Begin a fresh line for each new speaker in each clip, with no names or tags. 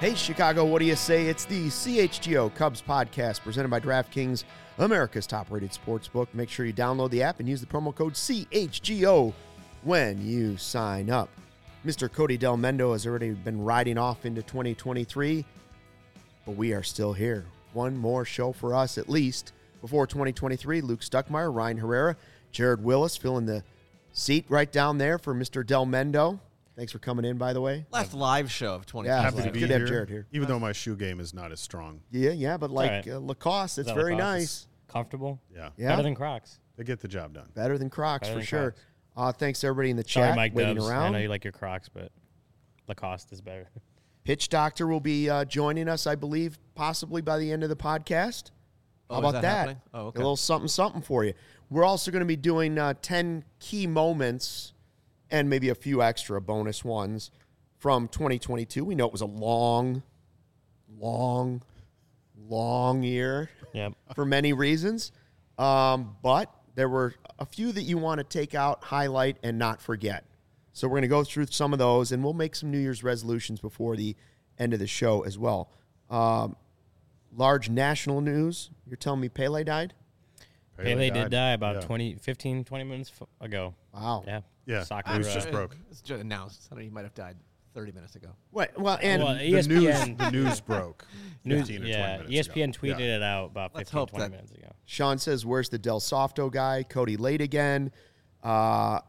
Hey, Chicago, what do you say? It's the CHGO Cubs podcast presented by DraftKings, America's top-rated sportsbook. Make sure you download the app and use the promo code CHGO when you sign up. Mr. Cody Delmendo has already been riding off into 2023, but we are still here. One more show for us, at least, before 2023. Luke Stuckmeyer, Ryan Herrera, Jared Willis filling the seat right down there for Mr. Delmendo. Thanks for coming in, by the way.
Last live show of 2020.
Yeah,
Happy to be
good
here.
to have Jared here.
Even though my shoe game is not as strong.
Yeah, but like
right.
Lacoste, it's
Is that
very
Lacoste?
nice.
It's comfortable.
Yeah.
Better than Crocs.
They get the job done.
Better than Crocs,
Better
for
than
sure.
Crocs.
Thanks to everybody in the
Sorry,
chat
Mike
waiting
Dubs.
around.
I know you like your Crocs, but Lacoste is better.
Pitch Doctor will be joining us, I believe, possibly by the end of the podcast.
Oh,
How
is
about
that
that?
happening? Oh, okay.
A little something for you. We're also going to be doing 10 key moments and maybe a few extra bonus ones from 2022. We know it was a long year
Yep.
for many reasons. But there were a few that you want to take out, highlight, and not forget. So we're going to go through some of those, and we'll make some New Year's resolutions before the end of the show as well. Large national news. You're telling me Pele died?
Pele did die about
Yeah.
15, 20 minutes ago.
Wow.
Yeah.
Yeah.
Soccer.
It was just broke.
It's just announced. I don't know, he might have died 30 minutes ago.
What? Well, and
Well,
The
ESPN,
news broke. 15 or 20 minutes
ESPN
ago.
tweeted
Yeah.
it out about
Let's
15,
hope
20
that-
minutes ago.
Sean says, where's the Del Softo guy? Cody late again. Mick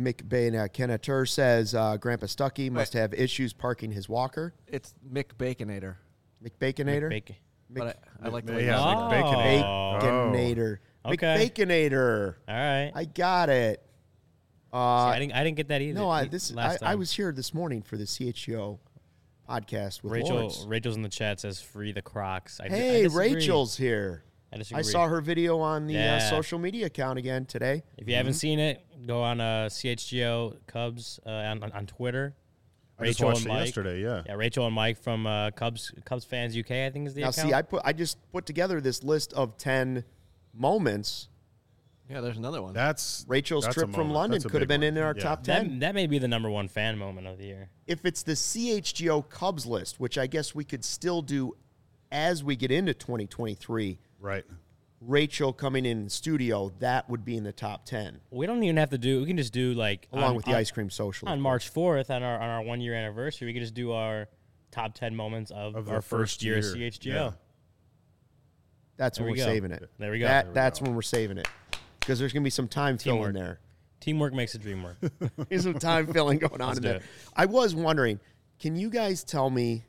Kenatur says, Grandpa Stuckey must have issues parking his walker.
It's Mick Baconator.
Mick Baconator?
Bacon.
But I like the
Yeah,
way
yeah,
you
like
say that.
Baconator.
Baconator.
Oh. Okay.
Mick Baconator.
All right.
I got it.
See, I didn't get that either.
No, I
last
I
time.
was here this morning for the CHGO podcast with
Rachel.
Lawrence.
Rachel's in the chat says free the Crocs. I
Hey,
disagree.
Rachel's here.
I disagree.
I saw her video on the
Yeah.
social media account again today.
If you haven't seen it, go on CHGO Cubs on Twitter.
I just watched it yesterday, yeah.
Yeah, Rachel and Mike from Cubs Fans UK, I think is the
Now,
account.
see, I just put together this list of 10 moments.
Yeah, there's another one.
Rachel's
that's a
trip from
moment.
London
That's a
could have
big
been
one.
in our
Yeah.
top 10.
that may be the number one fan moment of the year.
If it's the CHGO Cubs list, which I guess we could still do as we get into 2023,
Right.
Rachel coming in studio, that would be in the top 10,
We don't even have to do. We can just do like
along with the ice cream social.
on March 4th on our 1 year anniversary. We could just do our top 10 moments of
Of
our
the
first year
first year.
CHGO.
Yeah.
That's when
There
we're
we go.
saving it.
There we go.
That's when we're saving it. Because there's going to be some time filling
Teamwork.
there.
Teamwork makes the dream work.
There's some time filling going on
Let's
in
do
there.
it.
I was wondering, can you guys tell me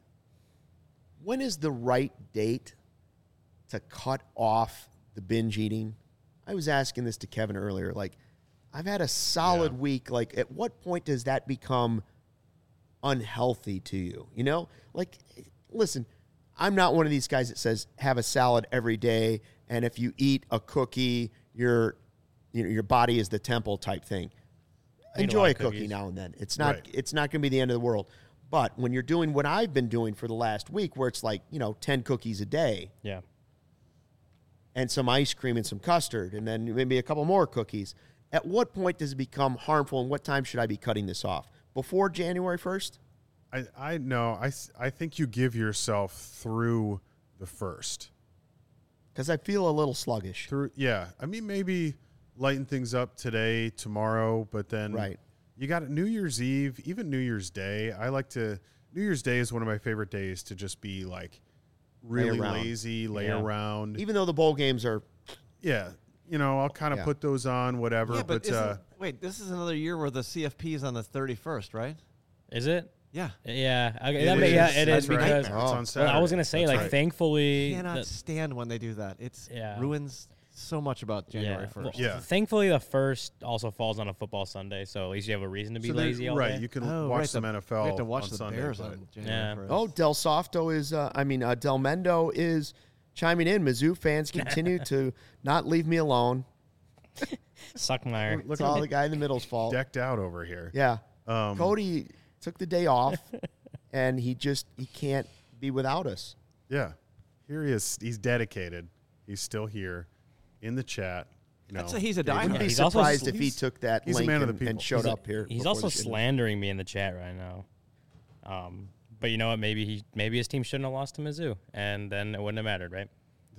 when is the right date to cut off the binge eating? I was asking this to Kevin earlier. Like, I've had a solid week. Like, at what point does that become unhealthy to you? You know? Like, listen, I'm not one of these guys that says have a salad every day, and if you eat a cookie, your body is the temple type thing.
Eat a
Enjoy
lot
a
of
cookie
cookies.
now and then. It's not
Right.
it's not going to be the end of the world. But when you're doing what I've been doing for the last week, where it's like, 10 cookies a day
Yeah.
and some ice cream and some custard and then maybe a couple more cookies, at what point does it become harmful, and what time should I be cutting this off? Before January 1st?
I know. I think you give yourself through the first.
Because I feel a little sluggish.
I mean, maybe lighten things up today, tomorrow, but then
Right.
you got New Year's Eve, even New Year's Day. New Year's Day is one of my favorite days to just be like really
around.
lazy, lay
Yeah.
around.
Even though the bowl games are
Yeah. I'll kind of
Yeah.
put those on, whatever.
yeah, but
but
wait, this is another year where the CFP is on the 31st, right?
Is it?
Yeah.
Yeah. Okay,
It
it
is.
is
That's right.
because
It's
Oh.
on
well,
Saturday.
I was gonna say
That's
like
right.
thankfully
Cannot
the-
stand when they do that. It's
Yeah.
ruins so much about January 1st.
Well,
Yeah.
Thankfully, the first also falls on a football Sunday, so at least you have a reason to be
So there-
lazy all
right.
day.
You can
Oh,
watch
right,
some
the-
NFL
We have to watch
on
the
Sunday.
Bears
but-
on January 1st.
Oh, Del Softo is, Del Mendo is chiming in. Mizzou fans continue to not leave me alone.
Suckmeyer.
It's all the guy in the middle's fault.
decked out over here.
Yeah.
Um,
Cody took the day off, and he can't be without us.
Yeah. Here he is. He's dedicated. He's still here in the chat.
I'd say he's a
I wouldn't
diehard.
be
he's also
surprised if he
he's-
took that
he's a
link
man of the
and
people.
showed up here.
He's
before
also
the show.
slandering me in the chat right now. But you know what? Maybe his team shouldn't have lost to Mizzou, and then it wouldn't have mattered, right?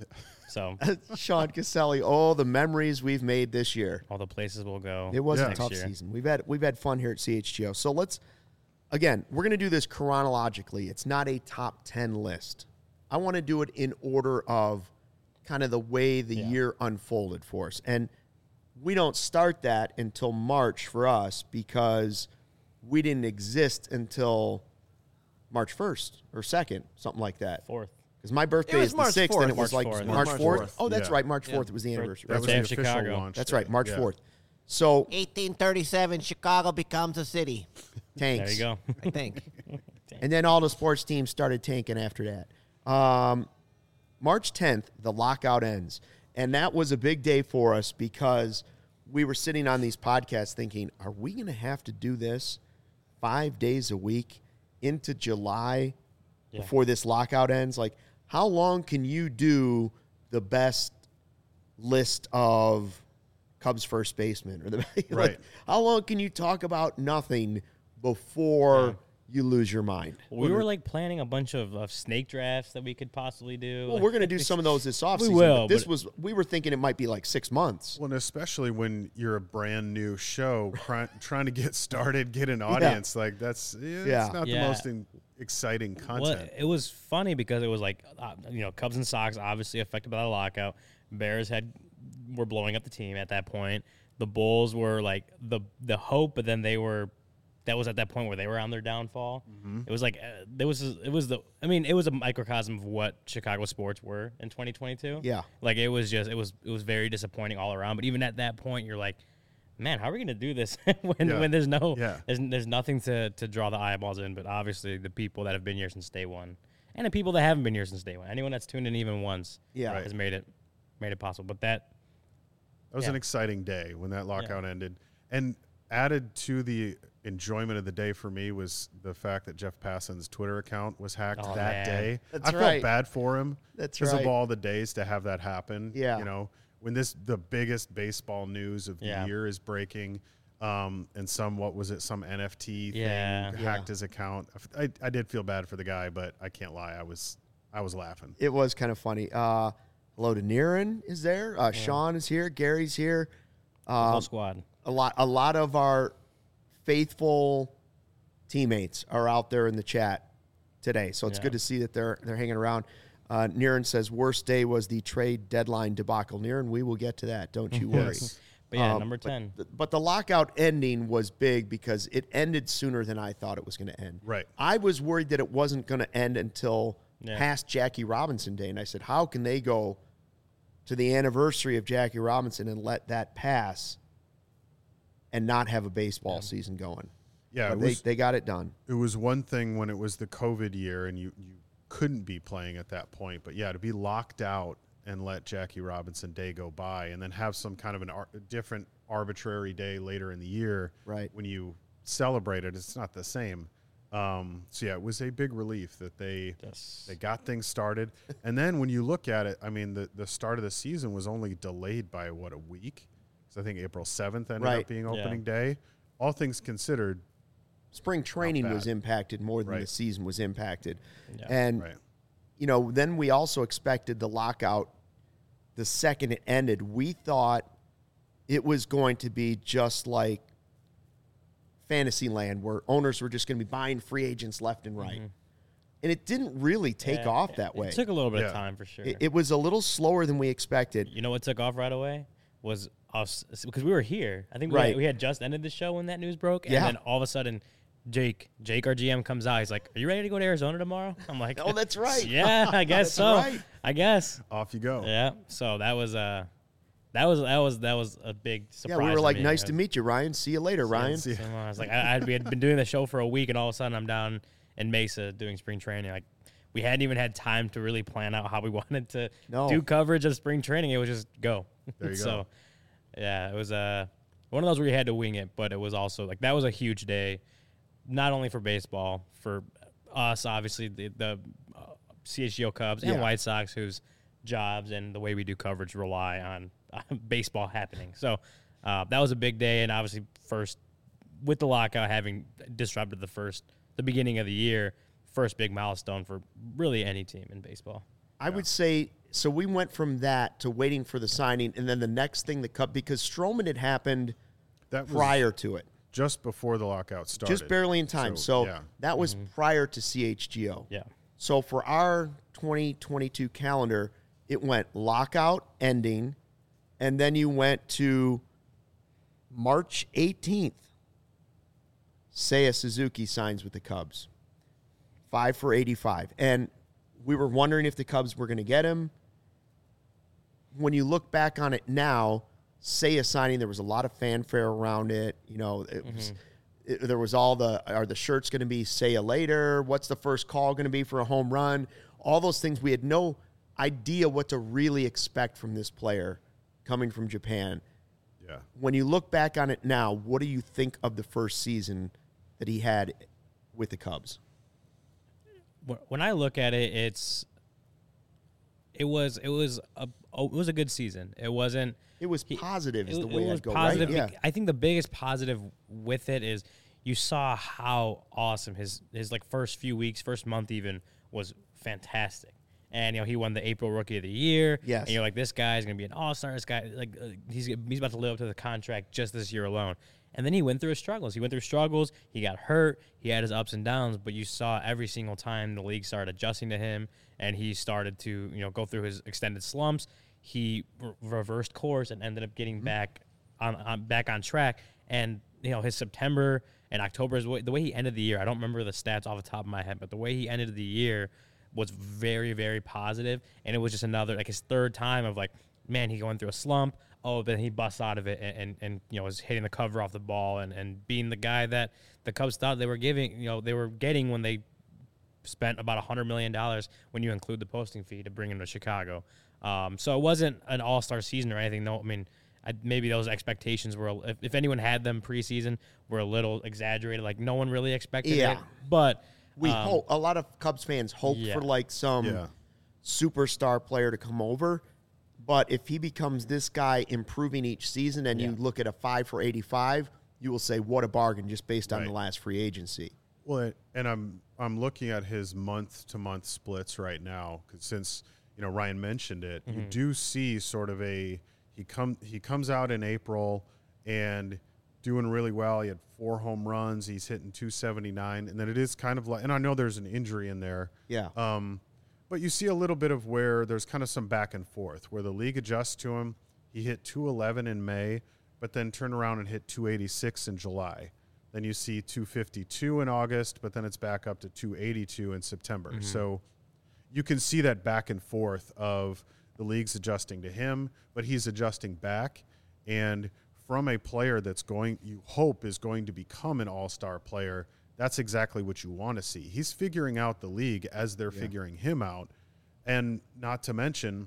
So
Sean Caselli, all the memories we've made this year.
all the places we'll go.
It was a
Yeah.
tough
next year.
season. We've had fun here at CHGO. So we're going to do this chronologically. It's not a top 10 list. I want to do it in order of kind of the way the year unfolded for us. And we don't start that until March for us because we didn't exist until March 1st or 2nd, something like that.
4th.
Because my birthday
was
is the
March
6th, and it
4th.
was like
March 4th.
March
March
4th.
4th.
Oh, that's
Yeah.
right. March 4th. It was the anniversary.
That was
Birthday
the
of
official
Chicago.
launch.
That's
day.
right, March
Yeah.
4th. So
1837, Chicago becomes a city,
tanks.
There you go.
I think.
And then all the sports teams started tanking after that. March 10th, the lockout ends. And that was a big day for us because we were sitting on these podcasts thinking, are we going to have to do this 5 days a week into July before this lockout ends? Like, how long can you do the best list of Cubs first baseman? Or the
Right.
how long can you talk about nothing before you lose your mind?
We were like planning a bunch of snake drafts that we could possibly do.
Well, we're going to do some of those this offseason.
will,
But
but-
we were thinking it might be like 6 months.
Well, and especially when you're a brand new show trying to get started, get an audience, like that's it's not the
Yeah.
most exciting content.
Well, it was funny because it was like, Cubs and Sox obviously affected by the lockout. Bears were blowing up the team at that point. The Bulls were like the hope, but then that was at that point where they were on their downfall.
Mm-hmm.
It was like it was a microcosm of what Chicago sports were in 2022.
Yeah.
Like it was very disappointing all around. But even at that point, you're like, man, how are we going to do this when there's there's nothing to draw the eyeballs in? But obviously the people that have been here since day one, and the people that haven't been here since day one, anyone that's tuned in even once,
Yeah.
has made it possible. But that
was an exciting day when that lockout ended. And added to the enjoyment of the day for me was the fact that Jeff Passan's Twitter account was hacked
Oh,
that
man.
day.
That's
I
right.
felt bad for him.
That's
because
right.
of all the days to have that happen.
Yeah.
You know, when the biggest baseball news of the year is breaking, and some NFT thing hacked his account. I did feel bad for the guy, but I can't lie, I was laughing.
It was kind of funny. Hello to Niren is there. Sean is here. Gary's here.
the whole squad.
A lot of our faithful teammates are out there in the chat today. So it's good to see that they're hanging around. Niren says worst day was the trade deadline debacle. Niren, we will get to that. Don't you worry.
Yes.
But yeah, number 10.
But the lockout ending was big because it ended sooner than I thought it was going to end.
Right.
I was worried that it wasn't going to end until past Jackie Robinson Day. And I said, how can they go to the anniversary of Jackie Robinson and let that pass and not have a baseball season going?
Yeah,
But they got it done.
It was one thing when it was the COVID year and you couldn't be playing at that point. But, yeah, to be locked out and let Jackie Robinson Day go by and then have some kind of a different arbitrary day later in the year when you celebrate it, it's not the same. So, yeah, it was a big relief that they got things started. And then when you look at it, I mean, the start of the season was only delayed by, a week? So I think April 7th ended up being opening day. All things considered,
spring training was impacted more than the season was impacted. And, then we also expected the lockout the second it ended. We thought it was going to be just like Fantasyland where owners were just going to be buying free agents left and right. And it didn't really take off that way.
It took a little bit of time for sure.
It was a little slower than we expected.
You know what took off right away? Was us, because we were here. I think we had just ended the show when that news broke. And then all of a sudden, Jake, our GM, comes out. He's like, "Are you ready to go to Arizona tomorrow?" I'm like,
"Oh, that's right."
Yeah, I guess so.
Right.
I guess.
Off you go.
Yeah. So that was a big surprise.
Yeah, we were like,
me.
"Nice to meet you, Ryan. See you later, Ryan."
I was like, we had been doing the show for a week, and all of a sudden, I'm down in Mesa doing spring training. Like, we hadn't even had time to really plan out how we wanted to do coverage of spring training. It was just go.
There you
so,
go.
Yeah, it was one of those where you had to wing it, but it was also like that was a huge day. Not only for baseball, for us, obviously, the CHGO Cubs and White Sox, whose jobs and the way we do coverage rely on baseball happening. So that was a big day, and obviously first, with the lockout having disrupted the beginning of the year, first big milestone for really any team in baseball.
I would say, so we went from that to waiting for the signing, and then the next thing because Stroman had happened
That was
prior to it.
just before the lockout started.
Just barely in time. So
yeah.
that was prior to CHGO.
Yeah.
So for our 2022 calendar, it went lockout ending, and then you went to March 18th. Seiya Suzuki signs with the Cubs. 5 for 85. And we were wondering if the Cubs were going to get him. When you look back on it now, Seiya signing, there was a lot of fanfare around it. You know, there was are the shirts going to be Seiya later? What's the first call going to be for a home run? All those things. We had no idea what to really expect from this player coming from Japan.
Yeah.
When you look back on it now, what do you think of the first season that he had with the Cubs?
When I look at it, it was a good season. It wasn't.
It was positive is the
It
way
was
I'd go,
positive.
right? Yeah.
I think the biggest positive with it is you saw how awesome his like first few weeks, first month even was fantastic. And he won the April Rookie of the Year.
Yes.
And you're like, this guy's gonna be an all-star. This guy, he's about to live up to the contract just this year alone. And then he went through his struggles. He got hurt. He had his ups and downs. But you saw every single time the league started adjusting to him, and he started to go through his extended slumps. He reversed course and ended up getting back on track. And his September and October is the way he ended the year. I don't remember the stats off the top of my head, but the way he ended the year was very, very positive. And it was just another, like, his third time of, like, man, he going through a slump. Oh, then he busts out of it and was hitting the cover off the ball and being the guy that the Cubs thought they were getting when they spent about $100 million when you include the posting fee to bring him to Chicago. So it wasn't an all-star season or anything. No, I mean, maybe those expectations were, if anyone had them preseason, were a little exaggerated. Like, no one really expected it. But
we hope, a lot of Cubs fans hope for like some superstar player to come over. But if he becomes this guy improving each season and you look at a 5 for 85, you will say, what a bargain just based on the last free agency.
Well, and I'm looking at his month-to-month splits right now, 'cause since Ryan mentioned it, you do see sort of he comes out in April and doing really well. He had 4 home runs. He's hitting 279, and then it is kind of like, and I know there's an injury in there.
Yeah.
But you see a little bit of where there's kind of some back and forth, where the league adjusts to him. He hit 211 in May, but then turn around and hit 286 in July. Then you see 252 in August, but then it's back up to 282 in September. So you can see that back and forth of the league's adjusting to him, but he's adjusting back. And from a player that's you hope is going to become an all-star player, that's exactly what you want to see. He's figuring out the league as they're figuring him out. And not to mention,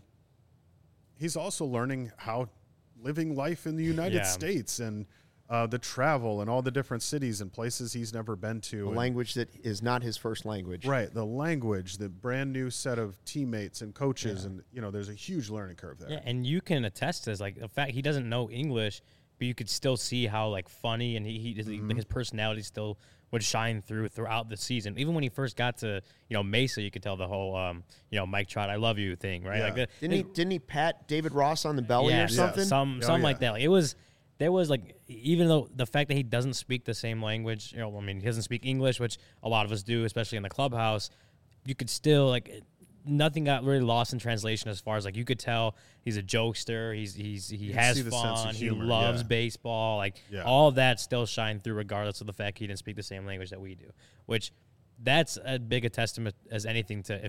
he's also learning how living life in the United States and the travel and all the different cities and places he's never been to.
A language that is not his first language.
Right. The language, the brand new set of teammates and coaches. And, there's a huge learning curve there.
Yeah, and you can attest to this. Like, the fact he doesn't know English, but you could still see how, like, funny and his personality still would shine throughout the season. Even when he first got to, Mesa, you could tell the whole, Mike Trout, I love you thing, right?
Yeah.
Like,
Didn't he pat David Ross on the belly or something?
Something like that. Like, there was like, even though the fact that he doesn't speak the same language, he doesn't speak English, which a lot of us do, especially in the clubhouse, you could still, like, nothing got really lost in translation as far as, like, you could tell he's a jokester, he has fun, he loves baseball, like, all of that still shine through regardless of the fact he didn't speak the same language that we do, which that's as big a testament as anything to,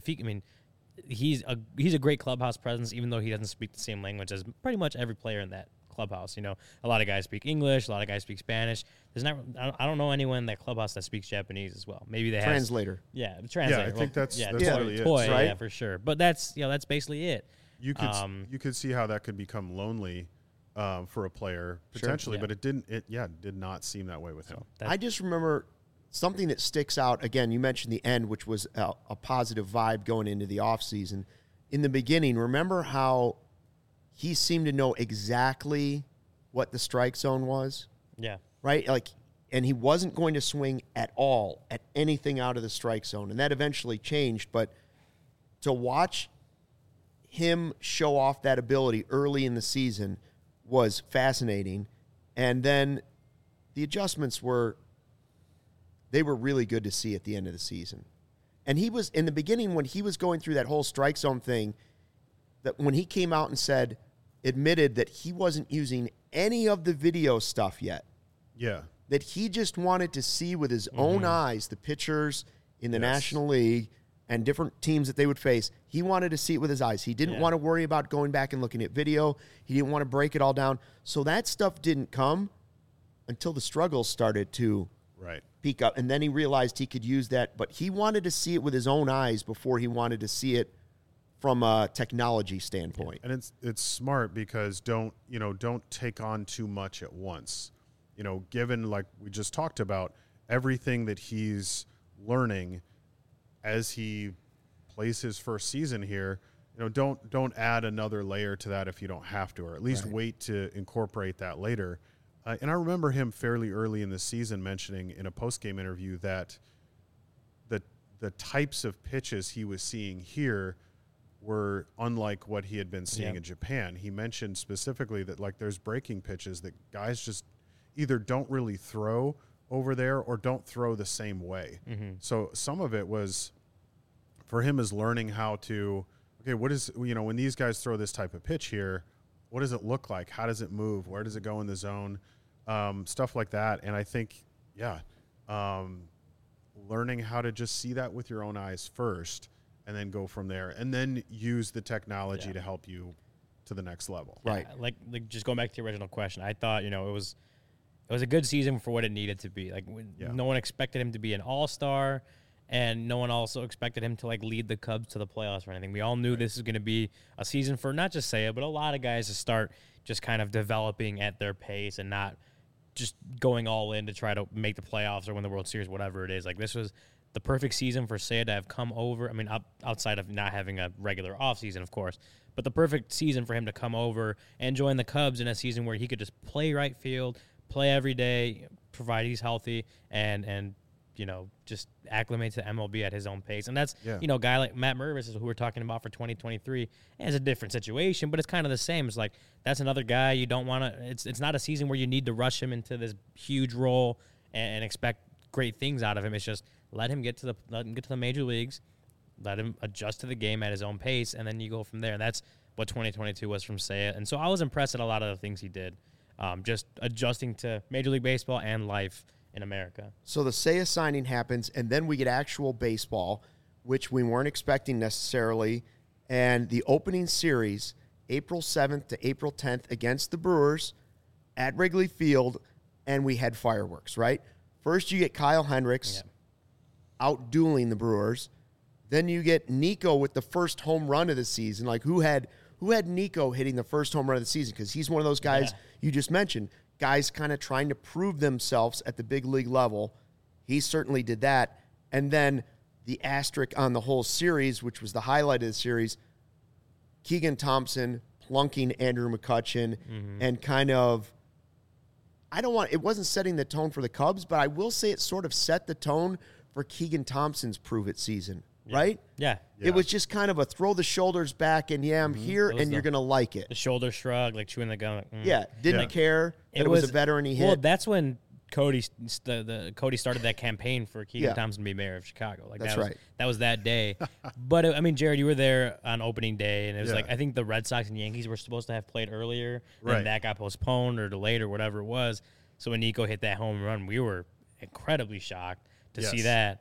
he's a great clubhouse presence, even though he doesn't speak the same language as pretty much every player in that clubhouse. A lot of guys speak English, a lot of guys speak Spanish. I don't know anyone in that clubhouse that speaks Japanese as well. Maybe they
translator.
The translator.
Yeah, I think that's really
toy,
it.
Right?
Yeah, for sure. But that's basically it.
You could see how that could become lonely for a player potentially, but it did not seem that way with him.
I just remember something that sticks out. Again, you mentioned the end, which was a positive vibe going into the offseason. In the beginning, remember how he seemed to know exactly what the strike zone was?
Yeah.
Right? Like, and he wasn't going to swing at all at anything out of the strike zone. And that eventually changed. But to watch him show off that ability early in the season was fascinating. And then the adjustments were really good to see at the end of the season. And he was, in the beginning, when he was going through that whole strike zone thing, that when he came out and admitted that he wasn't using any of the video stuff yet.
Yeah.
That he just wanted to see with his own eyes the pitchers in the National League and different teams that they would face. He wanted to see it with his eyes. He didn't want to worry about going back and looking at video. He didn't want to break it all down. So that stuff didn't come until the struggles started to peak up. And then he realized he could use that. But he wanted to see it with his own eyes before he wanted to see it from a technology standpoint.
And it's smart because don't take on too much at once. Given, like we just talked about, everything that he's learning as he plays his first season here, don't add another layer to that if you don't have to, or at least wait to incorporate that later. And I remember him fairly early in the season mentioning in a post-game interview that the types of pitches he was seeing here were unlike what he had been seeing in Japan. He mentioned specifically that, like, there's breaking pitches that guys just either don't really throw over there or don't throw the same way. So some of it was for him is learning how to, okay, what is, when these guys throw this type of pitch here, what does it look like? How does it move? Where does it go in the zone? Stuff like that. And I think, learning how to just see that with your own eyes first and then go from there and then use the technology to help you to the next level.
Right.
Like just going back to the original question, I thought, it was a good season for what it needed to be. Like, no one expected him to be an all-star, and no one also expected him to, like, lead the Cubs to the playoffs or anything. We all knew this was going to be a season for not just Seiya, but a lot of guys to start just kind of developing at their pace and not just going all in to try to make the playoffs or win the World Series, whatever it is. Like, this was the perfect season for Seiya to have come over. I mean, outside of not having a regular offseason, of course, but the perfect season for him to come over and join the Cubs in a season where he could just play right field, play every day, provide he's healthy, and just acclimate to MLB at his own pace. And that's, a guy like Matt Mervis, who we're talking about for 2023, has a different situation, but it's kind of the same. It's like, that's another guy you don't want to, it's not a season where you need to rush him into this huge role and expect great things out of him. It's just let him get to the major leagues, let him adjust to the game at his own pace, and then you go from there. And that's what 2022 was from Seiya. And so I was impressed at a lot of the things he did. Just adjusting to Major League Baseball and life in America.
So the Seiya signing happens, and then we get actual baseball, which we weren't expecting necessarily. And the opening series, April 7th to April 10th against the Brewers at Wrigley Field, and we had fireworks, right? First you get Kyle Hendricks out dueling the Brewers. Then you get Nico with the first home run of the season. Like, who had Nico hitting the first home run of the season? Because he's one of those guys you just mentioned, guys kind of trying to prove themselves at the big league level. He certainly did that. And then the asterisk on the whole series, which was the highlight of the series, Keegan Thompson plunking Andrew McCutchen and kind of, it wasn't setting the tone for the Cubs, but I will say it sort of set the tone for Keegan Thompson's prove-it season. Right?
Yeah.
It was just kind of a throw the shoulders back and, I'm here and you're going to like it.
The shoulder shrug, like chewing the gum.
Like, didn't care. It was a veteran he hit.
Well, that's when Cody started that campaign for Keegan Thompson to be mayor of Chicago. Like,
that's right.
That was that day. But, Jared, you were there on opening day, and it was like, I think the Red Sox and Yankees were supposed to have played earlier, and that got postponed or delayed or whatever it was. So when Nico hit that home run, we were incredibly shocked to see that.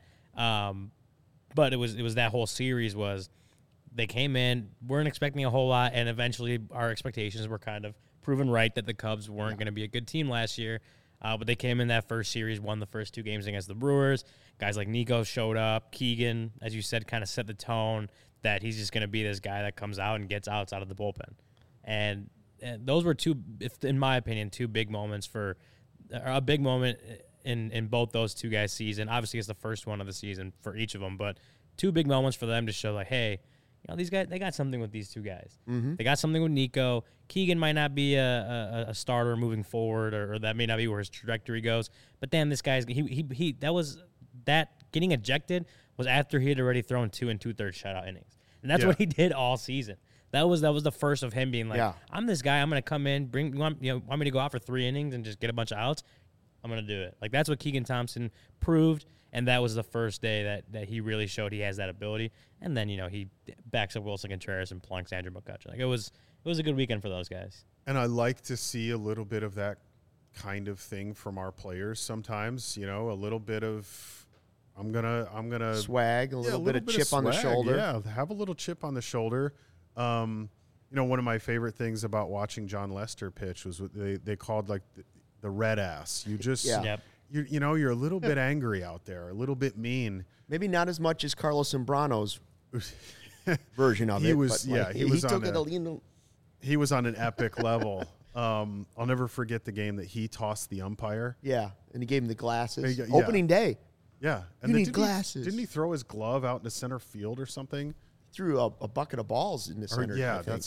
But it was that whole series was they came in, weren't expecting a whole lot, and eventually our expectations were kind of proven right that the Cubs weren't going to be a good team last year. But they came in that first series, won the first two games against the Brewers. Guys like Nico showed up. Keegan, as you said, kind of set the tone that he's just going to be this guy that comes out and gets outs out of the bullpen. And those were in my opinion, two big moments a big moment in both those two guys' season. Obviously, it's the first one of the season for each of them, but two big moments for them to show, like, hey, these guys, they got something with these two guys.
Mm-hmm.
They got something with Nico. Keegan might not be a starter moving forward, or that may not be where his trajectory goes. But damn, this guy's that getting ejected was after he had already thrown 2 2/3 shutout innings, and that's what he did all season. That was the first of him being like, I'm this guy. I'm gonna come in, want me to go out for 3 innings and just get a bunch of outs. I'm gonna do it. Like that's what Keegan Thompson proved. And that was the first day that he really showed he has that ability. And then, he backs up Wilson Contreras and plunks Andrew McCutchen. Like it was a good weekend for those guys.
And I like to see a little bit of that kind of thing from our players sometimes, a little bit of I'm gonna
swag, a little bit of chip on the shoulder.
Yeah, have a little chip on the shoulder. One of my favorite things about watching John Lester pitch was what they called like the red ass. You just
Yep.
You're a little bit angry out there, a little bit mean.
Maybe not as much as Carlos Zambrano's version of it.
He was on an epic level. I'll never forget the game that he tossed the umpire.
Yeah, and he gave him the glasses. Opening day.
Yeah.
And you need glasses.
Didn't he throw his glove out into center field or something?
Threw a bucket of balls in the center.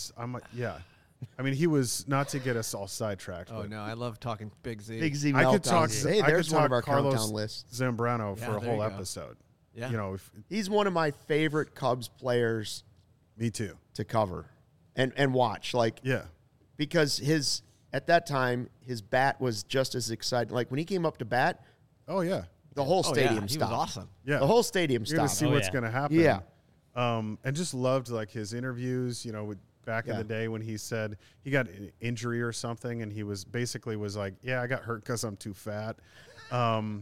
I mean, he was, not to get us all sidetracked.
Oh, no, I love talking Big Z.
Big Z
I could talk.
Hey, there's one of our countdown lists.
Zambrano for a whole
there you go.
episode.
Yeah.
He's one of my favorite Cubs players.
Me too.
To cover and watch. Because at that time, his bat was just as exciting. Like when he came up to bat.
Oh, yeah.
The whole stadium
He
stopped.
was awesome.
Yeah.
The whole stadium
You're going
stopped.
to see what's going to happen.
Yeah.
And just loved like his interviews, back in the day when he said he got an injury or something and he was like, yeah, I got hurt because I'm too fat. The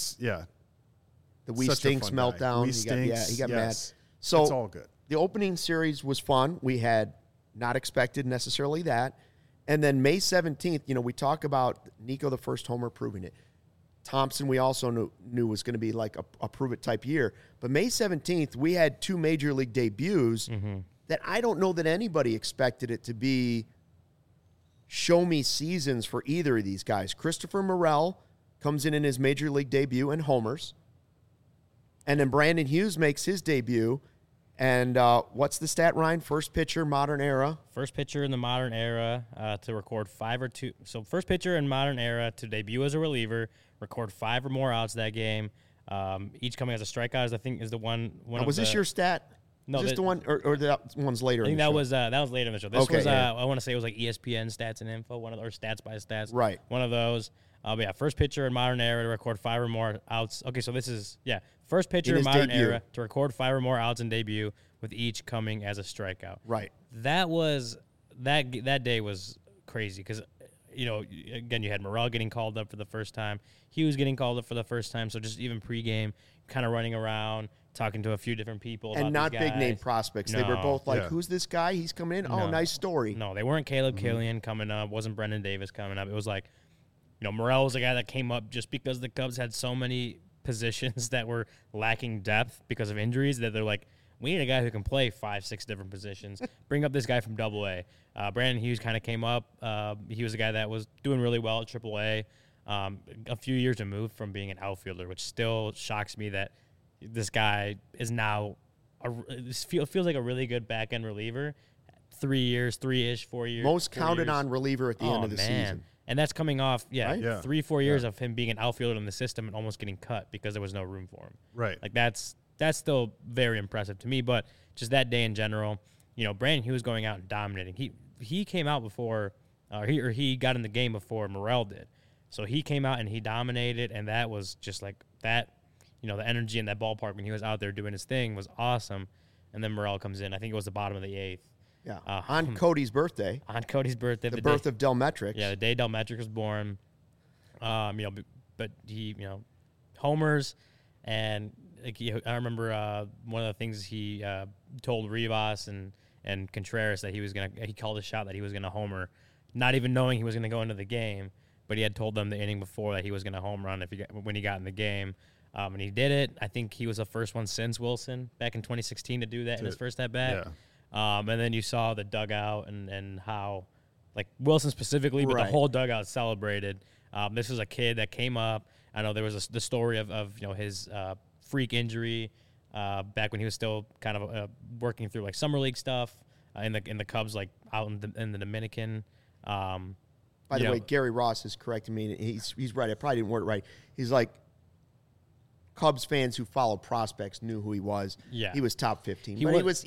We Stinks meltdown. He got mad. So
it's all good.
The opening series was fun. We had not expected necessarily that. And then May 17th, we talk about Nico, the first homer, proving it. Thompson, we also knew was going to be like a prove-it type year. But May 17th, we had 2 major league debuts that I don't know that anybody expected it to be show-me seasons for either of these guys. Christopher Morel comes in his major league debut and homers. And then Brandon Hughes makes his debut. And what's the stat, Ryan? First pitcher, modern era.
First pitcher in the modern era to record 5 or 2. So first pitcher in modern era to debut as a reliever, record 5 or more outs that game. Each coming as a strikeout, I think, is the one.
Was this your stat?
No,
is this the one, or that one's later?
I think that was later in the show. This was
yeah.
I want to say it was like ESPN Stats and Info, or Stats by Stats.
Right.
One of those. But yeah, first pitcher in modern era to record 5 or more outs. Okay, so this is first pitcher in modern era to record 5 or more outs in debut, with each coming as a strikeout.
Right.
That was that day was crazy because again you had Morel getting called up for the first time, Hughes getting called up for the first time. So just even pregame, kind of running around, talking to a few different people,
and
about
not
these guys.
Big name prospects. They were both like, "Who's this guy? He's coming in. Oh, nice story."
No, they weren't Caleb Killian coming up. Wasn't Brendan Davis coming up. It was like, Morel was a guy that came up just because the Cubs had so many positions that were lacking depth because of injuries that they're like, we need a guy who can play 5-6 different positions. Bring up this guy from AA. Brandon Hughes kind of came up. He was a guy that was doing really well at AAA. A few years removed from being an outfielder, which still shocks me that this guy is now feels like a really good back-end reliever. 3 years, 3-ish, 4 years.
Most counted on reliever at the end of the season.
And that's coming off, 3-4 years of him being an outfielder in the system and almost getting cut because there was no room for him.
Right.
Like that's still very impressive to me. But just that day in general, Brandon Hughes going out and dominating. He came out before, he got in the game before Morel did. So he came out and he dominated, and that was just like that. The energy in that ballpark when he was out there doing his thing was awesome. And then Morel comes in. I think it was the bottom of the 8th.
Yeah, on Cody's birthday.
On Cody's birthday.
The birth of Delmetrics.
Yeah, the day Delmetrics was born. But he, homers, and I remember one of the things he told Rivas and Contreras that he called a shot that he was gonna homer, not even knowing he was gonna go into the game, but he had told them the inning before that he was gonna home run when he got in the game. And he did it. I think he was the first one since Wilson back in 2016 to do that in his first at bat. Yeah. And then you saw the dugout and how, like Wilson specifically, but the whole dugout celebrated. This was a kid that came up. I know there was the story of his freak injury back when he was still kind of working through like summer league stuff in the Cubs, like out in the Dominican.
By the way, Gary Ross is correcting me. He's right. I probably didn't word it right. He's like, Cubs fans who follow prospects knew who he was.
Yeah.
He was top 15.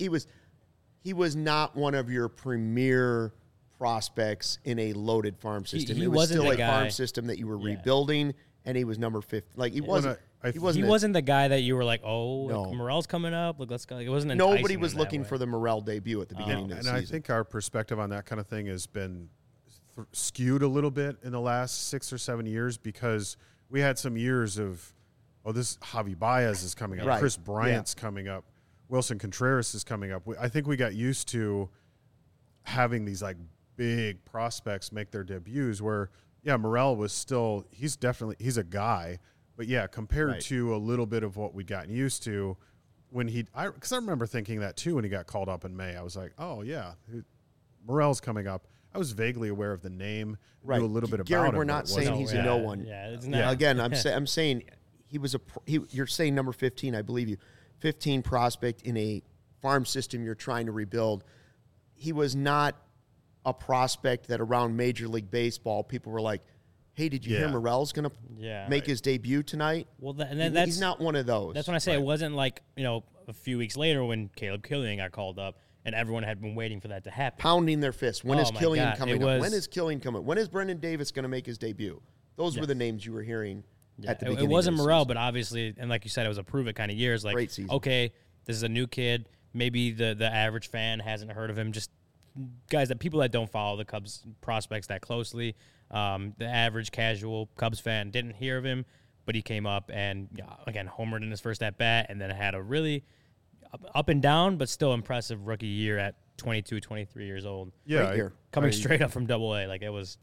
He was not one of your premier prospects in a loaded farm system.
He
it was
wasn't
still
the
a
guy.
farm system that you were rebuilding, and he was number 50. Like he wasn't. He
wasn't the guy that you were like, oh,
No.
like, Morel's coming up. Like, let's go. It wasn't.
Nobody
enticing
was
in that
looking
way.
for the Morel debut at the beginning of the season.
And I think our perspective on that kind of thing has been skewed a little bit in the last 6 or 7 years because we had some years of, this Javi Baez is coming up,
Right.
Chris Bryant's coming up, Wilson Contreras is coming up. I think we got used to having these like big prospects make their debuts where, Morel was still, he's a guy, but compared to a little bit of what we'd gotten used to when because I remember thinking that too when he got called up in May. I was like, oh yeah, Morel's coming up. I was vaguely aware of the name, knew a little bit
Gary,
about him.
we're not saying he's a no one.
Yeah, it's not.
Again, I'm saying he was you're saying number 15, I believe you. 15 prospect in a farm system you're trying to rebuild. He was not a prospect that around Major League Baseball people were like, hey, did you hear Morel's going to make his debut tonight?
Well,
he's not one of those.
That's when I say it wasn't like, a few weeks later when Caleb Killian got called up and everyone had been waiting for that to happen.
Pounding their fists. When is
my
Killian
God,
coming up? When is Killian coming? When is Brendan Davis going to make his debut? Those were the names you were hearing at the beginning.
It wasn't
of the
Morel,
season.
but obviously, and like you said, it was a prove it kind of years. Like,
Great season.
Okay, this is a new kid. Maybe the average fan hasn't heard of him. Just guys people that don't follow the Cubs prospects that closely. The average casual Cubs fan didn't hear of him, but he came up and again homered in his first at bat, and then had a really up and down but still impressive rookie year at 22, 23 years old.
Yeah,
coming straight up from Double-A. Like it was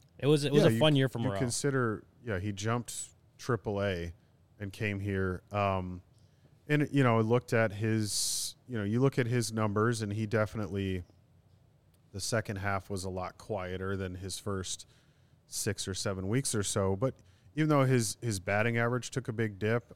a fun year for Morel.
You consider, he jumped Triple-A and came here. And looked at his, you look at his numbers, and he definitely, the second half was a lot quieter than his first 6 or 7 weeks or so. But even though his batting average took a big dip,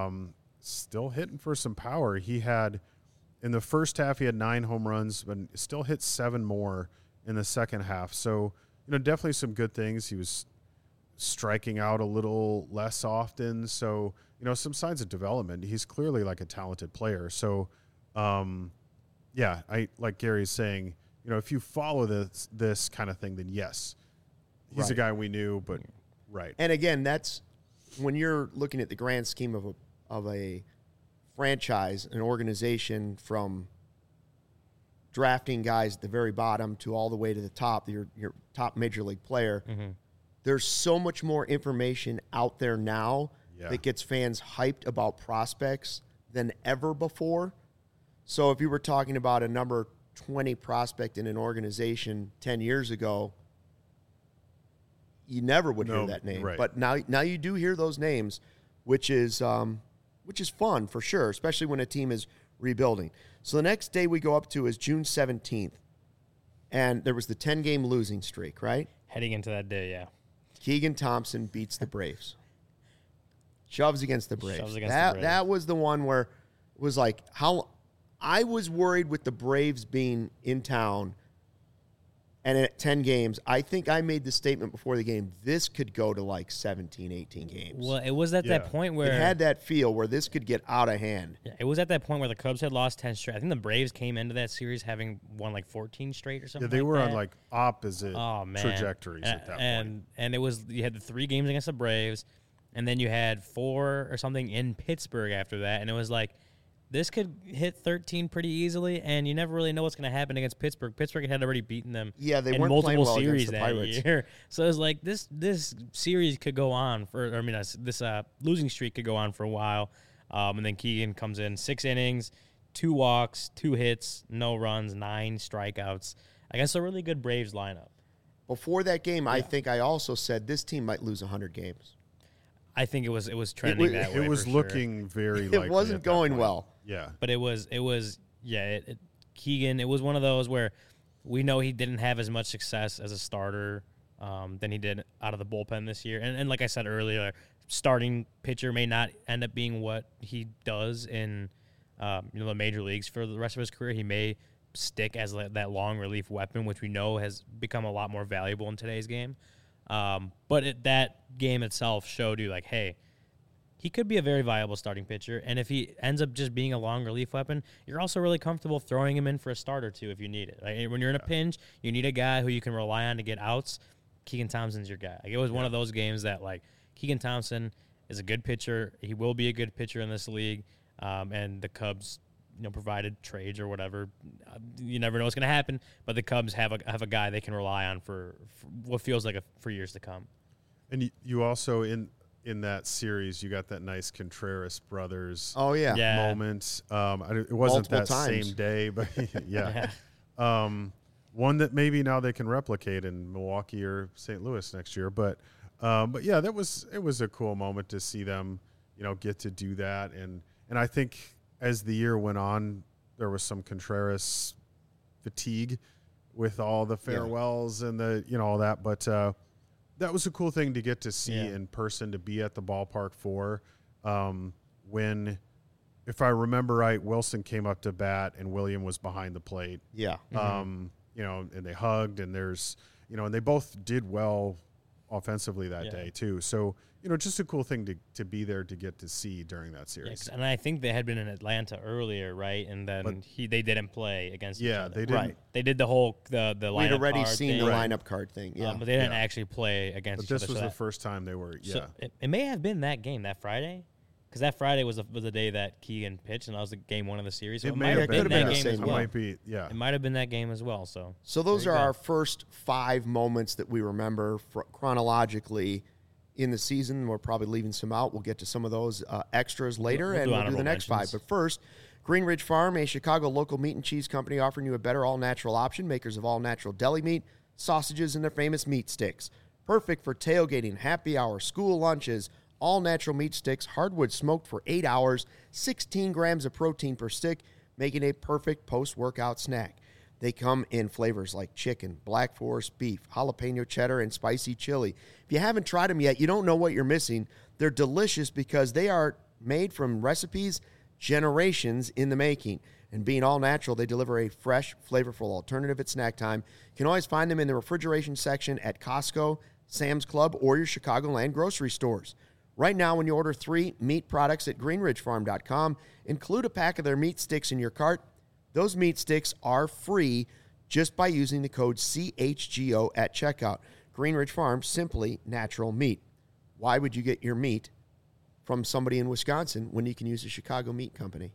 still hitting for some power. He had, in the first half, he had 9 home runs, but still hit 7 more in the second half. So, definitely some good things. He was striking out a little less often. So, some signs of development. He's clearly like a talented player. So, I like Gary's saying, if you follow this kind of thing, then yes, he's a guy we knew, but
And again, that's when you're looking at the grand scheme of a franchise, an organization, from drafting guys at the very bottom to all the way to the top, your top major league player.
Mm-hmm.
There's so much more information out there now that gets fans hyped about prospects than ever before. So if you were talking about a number 20 prospect in an organization 10 years ago, you never would hear that name.
Right.
But now you do hear those names, which is fun for sure, especially when a team is rebuilding. So the next day we go up to is June 17th, and there was the 10-game losing streak, right?
Heading into that day, yeah.
Keegan Thompson beats the Braves. Shoves against the Braves.
Shoves against the Braves.
That was the one where it was like, how I was worried with the Braves being in town and at 10 games. I think I made the statement before the game, this could go to like 17, 18 games.
Well, it was at that point where
it had that feel where this could get out of hand.
Yeah, it was at that point where the Cubs had lost 10 straight. I think the Braves came into that series having won like 14 straight or something.
they were
that.
on like opposite trajectories
and,
at that point.
And it was, you had the 3 games against the Braves, and then you had 4 or something in Pittsburgh after that, and it was like, this could hit 13 pretty easily, and you never really know what's going to happen against Pittsburgh. Pittsburgh had already beaten them
they
in
weren't playing
multiple
well
series
against the
that
Pirates.
year. So it was like this series could go on for, this losing streak could go on for a while. And then Keegan comes in 6 innings, 2 walks, 2 hits, no runs, 9 strikeouts against a really good Braves lineup.
Before that game, I think I also said this team might lose 100 games.
I think it was trending that way.
It was
for
looking very likely.
It wasn't
at that
going
point.
well.
Yeah.
But Keegan, it was one of those where we know he didn't have as much success as a starter than he did out of the bullpen this year. And like I said earlier, starting pitcher may not end up being what he does in the major leagues for the rest of his career, he may stick as that long relief weapon, which we know has become a lot more valuable in today's game. But that game itself showed you, like, hey, he could be a very viable starting pitcher. And if he ends up just being a long relief weapon, you're also really comfortable throwing him in for a start or two if you need it. Like, when you're in a pinch, you need a guy who you can rely on to get outs. Keegan Thompson's your guy. Like, it was one of those games that, like, Keegan Thompson is a good pitcher. He will be a good pitcher in this league. And the Cubs, provided trades or whatever, you never know what's going to happen. But the Cubs have a guy they can rely on for what feels like for years to come. And
you also in that series, you got that nice Contreras brothers moment. It wasn't
Multiple
that
times.
same day, but yeah. One that maybe now they can replicate in Milwaukee or St. Louis next year. But yeah, it was a cool moment to see them, get to do that. And I think as the year went on, there was some Contreras fatigue with all the farewells and all that. But that was a cool thing to get to see in person, to be at the ballpark for. When, if I remember right, Wilson came up to bat and William was behind the plate.
Yeah.
And they hugged, and and they both did well offensively that day too. So, just a cool thing to be there to get to see during that series.
And I think they had been in Atlanta earlier, right? And then they didn't play against each other.
They didn't.
Right.
They did the whole the lineup.
We'd already
card
seen
thing,
the lineup card thing. Yeah.
but they didn't actually play against
But
each other.
this was the first time they were.
So it may have been that game, that Friday, because that Friday was the day that Keegan pitched, and that was the game one of the series. So
it
might have been that game as well.
Might be, yeah.
It might have been that game as well. So
those are our first 5 moments that we remember chronologically in the season. We're probably leaving some out. We'll get to some of those extras later, and we'll do the next 5. But first, Green Ridge Farm, a Chicago local meat and cheese company offering you a better all-natural option, makers of all-natural deli meat, sausages, and their famous meat sticks. Perfect for tailgating, happy hour, school lunches. All-natural meat sticks, hardwood smoked for 8 hours, 16 grams of protein per stick, making a perfect post-workout snack. They come in flavors like chicken, black forest beef, jalapeno cheddar, and spicy chili. If you haven't tried them yet, you don't know what you're missing. They're delicious because they are made from recipes generations in the making. And being all natural, they deliver a fresh, flavorful alternative at snack time. You can always find them in the refrigeration section at Costco, Sam's Club, or your Chicagoland grocery stores. Right now, when you order 3 meat products at greenridgefarm.com, include a pack of their meat sticks in your cart. Those meat sticks are free just by using the code CHGO at checkout. Green Ridge Farm, simply natural meat. Why would you get your meat from somebody in Wisconsin when you can use a Chicago meat company?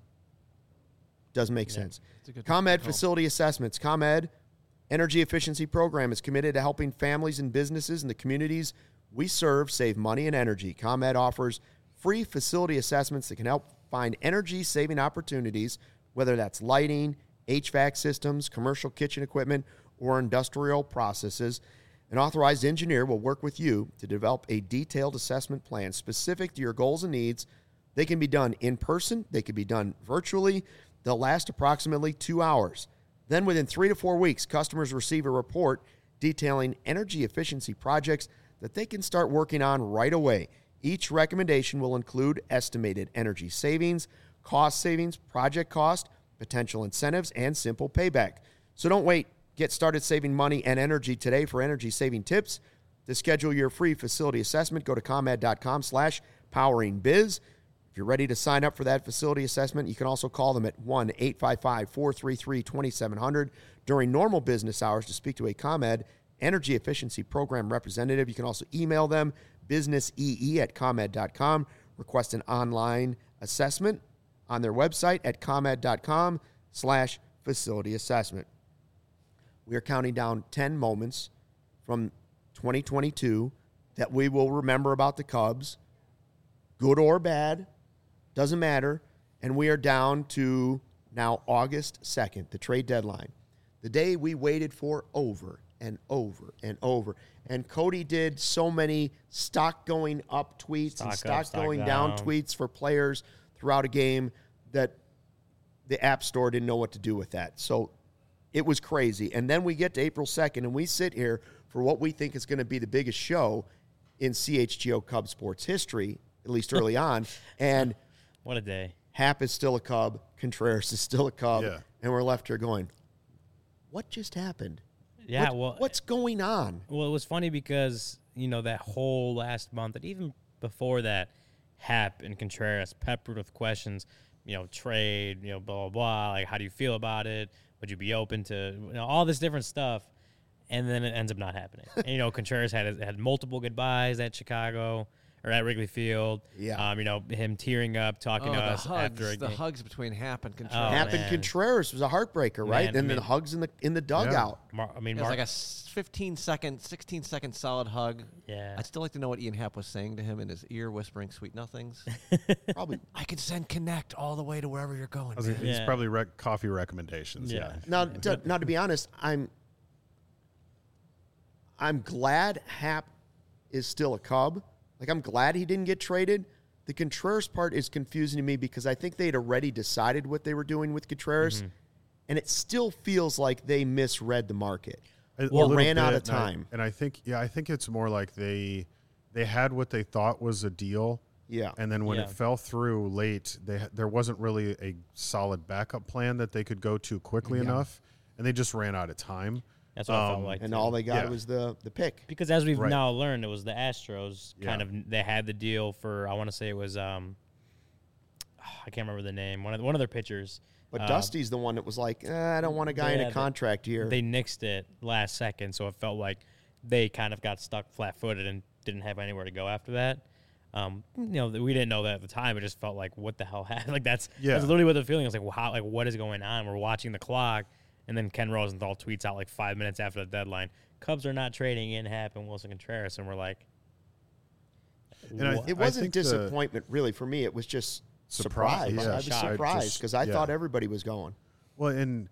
Doesn't make sense. ComEd Facility Assessments. ComEd Energy Efficiency Program is committed to helping families and businesses in the communities we serve save money and energy. ComEd offers free facility assessments that can help find energy-saving opportunities, whether that's lighting, HVAC systems, commercial kitchen equipment, or industrial processes. An authorized engineer will work with you to develop a detailed assessment plan specific to your goals and needs. They can be done in person. They can be done virtually. They'll last approximately 2 hours. Then within 3 to 4 weeks, customers receive a report detailing energy efficiency projects that they can start working on right away. Each recommendation will include estimated energy savings, cost savings, project cost, potential incentives, and simple payback. So don't wait. Get started saving money and energy today for energy-saving tips. To schedule your free facility assessment, go to ComEd.com/poweringbiz. If you're ready to sign up for that facility assessment, you can also call them at 1-855-433-2700 during normal business hours to speak to a ComEd Energy Efficiency Program representative. You can also email them, businessee@comed.com. Request an online assessment on their website at comed.com/facility assessment. We are counting down 10 moments from 2022 that we will remember about the Cubs, good or bad, doesn't matter. And we are down to now August 2nd, the trade deadline, the day we waited for over and over and over. And Cody did so many stock going up tweets and stock going down tweets for players throughout a game that the App Store didn't know what to do with that. So it was crazy. And then we get to April 2nd, and we sit here for what we think is going to be the biggest show in CHGO Cubs sports history, at least early on. And
what a day.
Happ is still a Cub, Contreras is still a Cub,
Yeah.
and we're left here going, what just happened?
Yeah,
What's going on?
Well, it was funny because, that whole last month and even before that, Happ and Contreras peppered with questions, trade, blah, blah, blah. Like, how do you feel about it? Would you be open to, all this different stuff? And then it ends up not happening. And, Contreras had multiple goodbyes at Chicago or at Wrigley Field.
Yeah.
Him tearing up, talking to us
hugs,
after a
the
game.
hugs between Happ and Contreras.
Happ and
man.
Contreras was a heartbreaker, right?
Man,
Then
I mean-
the hugs in the dugout.
It was like a 15-second, 16-second solid hug.
Yeah.
I'd still like to know what Ian Happ was saying to him in his ear, whispering sweet nothings.
Probably.
I can send Connect all the way to wherever you're going.
He's
man.
Yeah.
probably coffee recommendations.
Yeah.
Yeah.
Now, to be honest, I'm glad Happ is still a Cub. Like, I'm glad he didn't get traded. The Contreras part is confusing to me because I think they'd already decided what they were doing with Contreras, and it still feels like they misread the market.
A
Or
little
ran out
bit,
of time.
And I think it's more like they had what they thought was a deal.
Yeah.
And then when
Yeah.
it fell through late, there wasn't really a solid backup plan that they could go to quickly enough, and they just ran out of time.
That's what I felt like.
And
too.
all they got
Yeah.
was the pick.
Because as we've
Right.
now learned, it was the Astros kind
Yeah.
of they had the deal for I want to say it was I can't remember the name one of their pitchers.
But Dusty's the one that was like, I don't want a guy in a contract here.
They nixed it last second, so it felt like they kind of got stuck flat-footed and didn't have anywhere to go after that. We didn't know that at the time. It just felt like, what the hell happened? Like that's literally what the feeling was like. Wow, like what is going on? We're watching the clock. And then Ken Rosenthal tweets out like 5 minutes after the deadline, Cubs are not trading in Happ and Wilson Contreras. And we're like,
And
it wasn't disappointment, really. For me, it was just surprise.
Yeah.
I was
Shock.
surprised because I thought everybody was going.
Well, and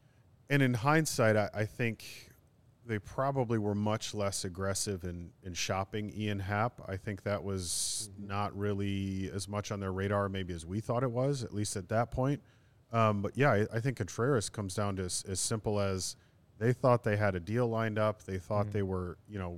in hindsight, I think they probably were much less aggressive in shopping Ian Happ. I think that was not really as much on their radar maybe as we thought it was, at least at that point. But yeah, I think Contreras comes down to as simple as they thought they had a deal lined up. They thought they were,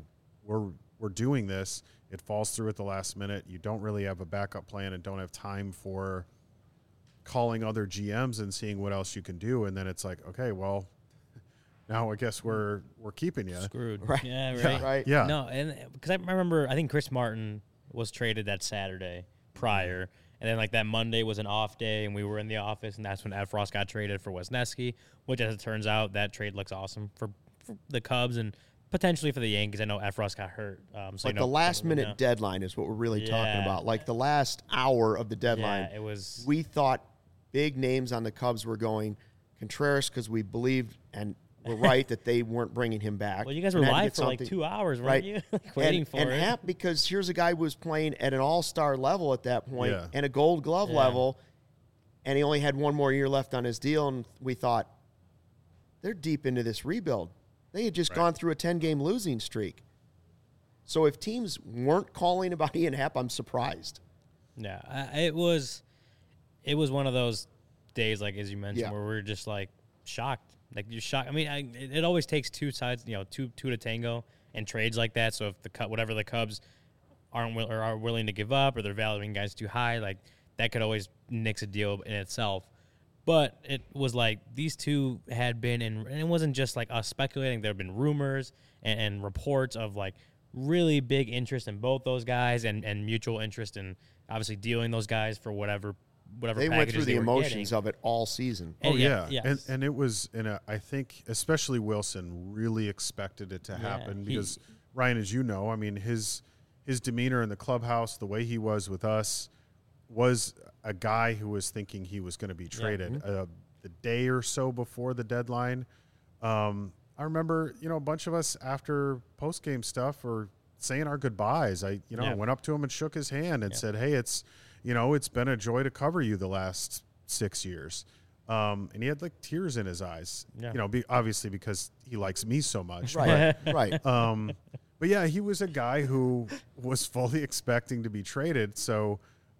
we're doing this. It falls through at the last minute. You don't really have a backup plan and don't have time for calling other GMs and seeing what else you can do. And then it's like, okay, well, now I guess we're keeping you.
screwed.
Right.
Yeah, right.
Right.
Yeah.
No, and because I remember, I think Chris Martin was traded that Saturday prior. And then, like, that Monday was an off day, and we were in the office, and that's when Efros got traded for Wisniewski, which, as it turns out, that trade looks awesome for the Cubs and potentially for the Yankees. I know Efros got hurt.
Like the last-minute deadline is what we're really talking
Yeah.
about. Like the last hour of the deadline.
Yeah, it was.
We thought big names on the Cubs were going Contreras because we believed and were right that they weren't bringing him back.
Well, you guys were
and had to
live
get
for like
something-
2 hours, weren't
Right.
you? Like, waiting for
and
it.
Happ, because here's a guy who was playing at an all-star level at that point
Yeah.
and a gold glove
Yeah.
level, and he only had one more year left on his deal, and we thought, they're deep into this rebuild. They had just gone through a 10-game losing streak. So if teams weren't calling about Ian Happ, I'm surprised.
Yeah, it was one of those days, like as you mentioned,
Yeah.
where we're just like shocked. Like you're shocked. I mean, it always takes two sides, two to tango in trades like that. So if whatever the Cubs are willing to give up, or they're valuing guys too high, like that could always nix a deal in itself. But it was like these two had been and it wasn't just like us speculating. There have been rumors and reports of like really big interest in both those guys and mutual interest in obviously dealing those guys for whatever
They went
packages
through the
they were
emotions
getting.
of it all season.
Oh
And
yeah,
yes.
and it was, I think especially Wilson really expected it to happen
he-
because Ryan, as you know, I mean his demeanor in the clubhouse, the way he was with us, was a guy who was thinking he was going to be traded. The day or so before the deadline, I remember a bunch of us after post game stuff were saying our goodbyes. I went up to him and shook his hand and said, "Hey, it's been a joy to cover you the last 6 years." And he had like tears in his eyes,
Yeah.
obviously because he likes me so much.
Right, right.
But yeah, he was a guy who was fully expecting to be traded. So,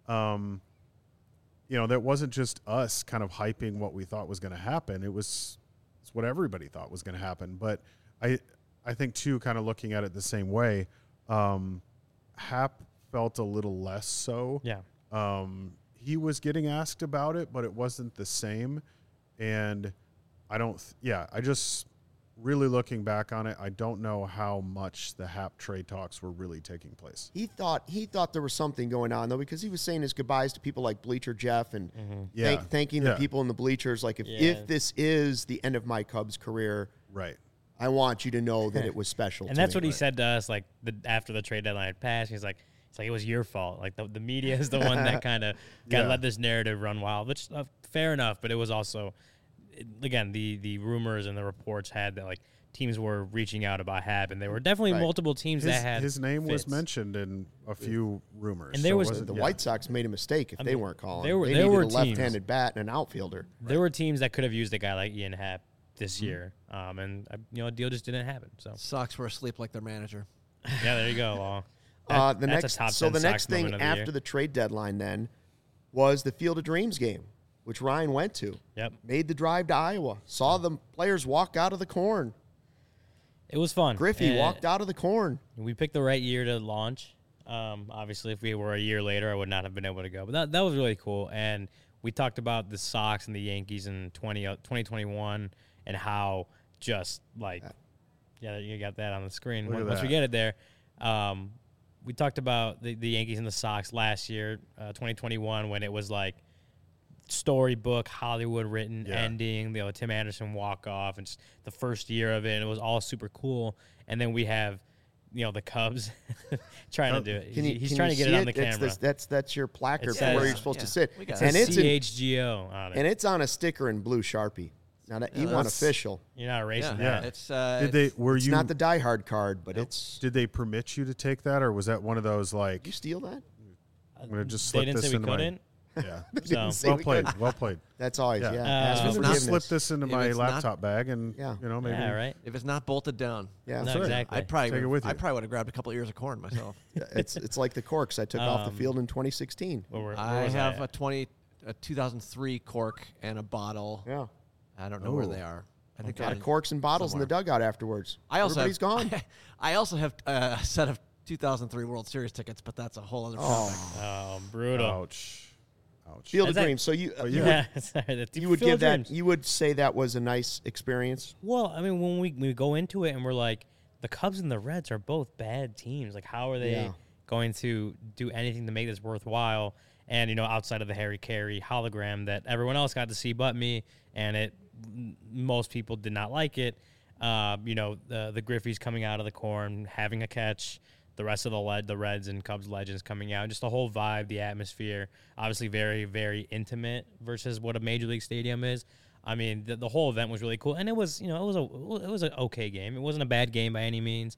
that wasn't just us kind of hyping what we thought was going to happen. It's what everybody thought was going to happen. But I think too, kind of looking at it the same way, Happ felt a little less so.
Yeah.
he was getting asked about it, but it wasn't the same. And I just really looking back on it, I don't know how much the Hap trade talks were really taking place.
He thought there was something going on, though, because he was saying his goodbyes to people like Bleacher Jeff and thanking the people in the bleachers. Like, if this is the end of my Cubs career,
right,
I want you to know that it was special.
And that's what he said to us, like after the trade deadline had passed. He's like, it's like it was your fault. Like the media is the one that kind of let this narrative run wild, which fair enough. But it was also, again, the rumors and the reports had that like teams were reaching out about Hap, and there were definitely multiple teams that had
his name
fits.
was mentioned in a few rumors.
And there was
the White Sox made a mistake if they weren't calling. They
there were
needed a left-handed bat and an outfielder.
There were teams that could have used a guy like Ian Happ this year, and a deal just didn't happen. So
Sox were asleep like their manager.
yeah, there you go.
The next thing after the trade deadline then was the Field of Dreams game, which Ryan went to.
Yep.
Made the drive to Iowa. Saw the players walk out of the corn.
It was fun.
Griffey walked out of the corn.
We picked the right year to launch. Obviously, if we were a year later, I would not have been able to go. But that was really cool. And we talked about the Sox and the Yankees in 2021 and how just like, you got that on the screen. Once we get it there. We talked about the Yankees and the Sox last year, 2021, when it was like storybook, Hollywood written ending, Tim Anderson walk off, and just the first year of it, and it was all super cool. And then we have, the Cubs trying to do it. He's trying to get it on the camera.
That's your placard for where you're supposed to sit.
And it's CHGO on it.
And it's on a sticker in blue Sharpie. Now that you want official.
You're not erasing that.
It's
it's not the Die Hard card, but it's.
Did they permit you to take that, or was that one of those like?
Did you steal that?
I'm gonna just slip
they didn't
this
say we
into
couldn't.
So well played, well played.
That's always
Ask for forgiveness. Slip this into my laptop bag, and maybe.
Yeah, right.
If it's not bolted down.
Yeah,
no, exactly.
I'd probably
take it with you.
I probably would have grabbed a couple of ears of corn myself.
It's like the corks I took off the field in 2016.
I have a 2003 cork and a bottle.
Yeah,
I don't know where they are. I think
got corks and bottles
somewhere
in the dugout afterwards.
Everybody's
gone.
I also have a set of 2003 World Series tickets, but that's a whole other topic.
Oh, brutal.
Ouch.
Field of Dreams. So you would give that. You would say that was a nice experience.
Well, I mean, when we go into it and we're like, the Cubs and the Reds are both bad teams. Like, how are they going to do anything to make this worthwhile? And outside of the Harry Carey hologram that everyone else got to see but me, and most people did not like it. The Griffeys coming out of the corn, having a catch. The rest of the Reds and Cubs legends coming out, just the whole vibe, the atmosphere, obviously very, very intimate versus what a major league stadium is. I mean, the whole event was really cool, and it was, it was an okay game. It wasn't a bad game by any means.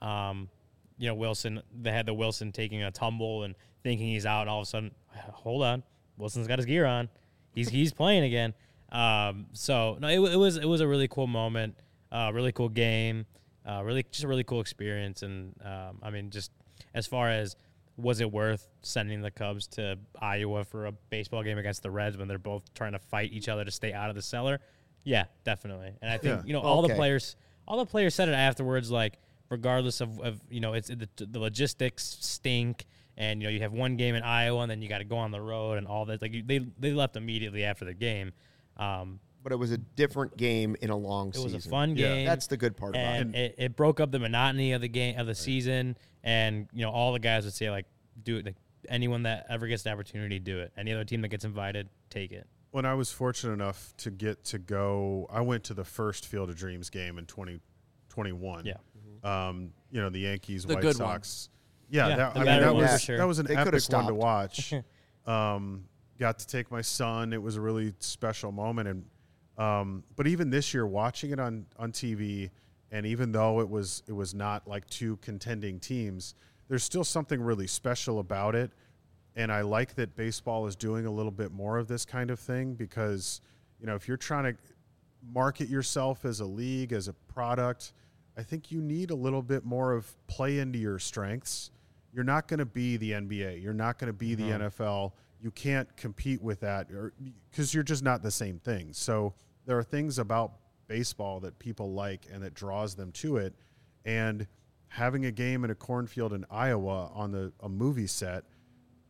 Wilson, they had the Wilson taking a tumble and thinking he's out, and all of a sudden, hold on, Wilson's got his gear on, he's playing again. So no, it was a really cool moment, really cool game. Just a really cool experience. And, I mean, just as far as was it worth sending the Cubs to Iowa for a baseball game against the Reds when they're both trying to fight each other to stay out of the cellar? Yeah, definitely. And I think, all the players said it afterwards, like, regardless of it's the logistics stink. And, you have one game in Iowa and then you got to go on the road and all that. Like, they left immediately after the game.
But it was a different game in a long season.
It was a fun game.
That's the good part about it.
And it broke up the monotony of the game of the season. And all the guys would say like, do it. Like, anyone that ever gets the opportunity, do it. Any other team that gets invited, take it.
When I was fortunate enough to get to go, I went to the first Field of Dreams game in 2021.
Yeah.
The Yankees,
the
White Sox.
One.
That was an epic one to watch. Got to take my son. It was a really special moment. And but even this year, watching it on TV, and even though it was not like two contending teams, there's still something really special about it. And I like that baseball is doing a little bit more of this kind of thing because, if you're trying to market yourself as a league, as a product, I think you need a little bit more of play into your strengths. You're not going to be the NBA. You're not going to be the NFL. You can't compete with that because you're just not the same thing. So there are things about baseball that people like and that draws them to it. And having a game in a cornfield in Iowa on a movie set,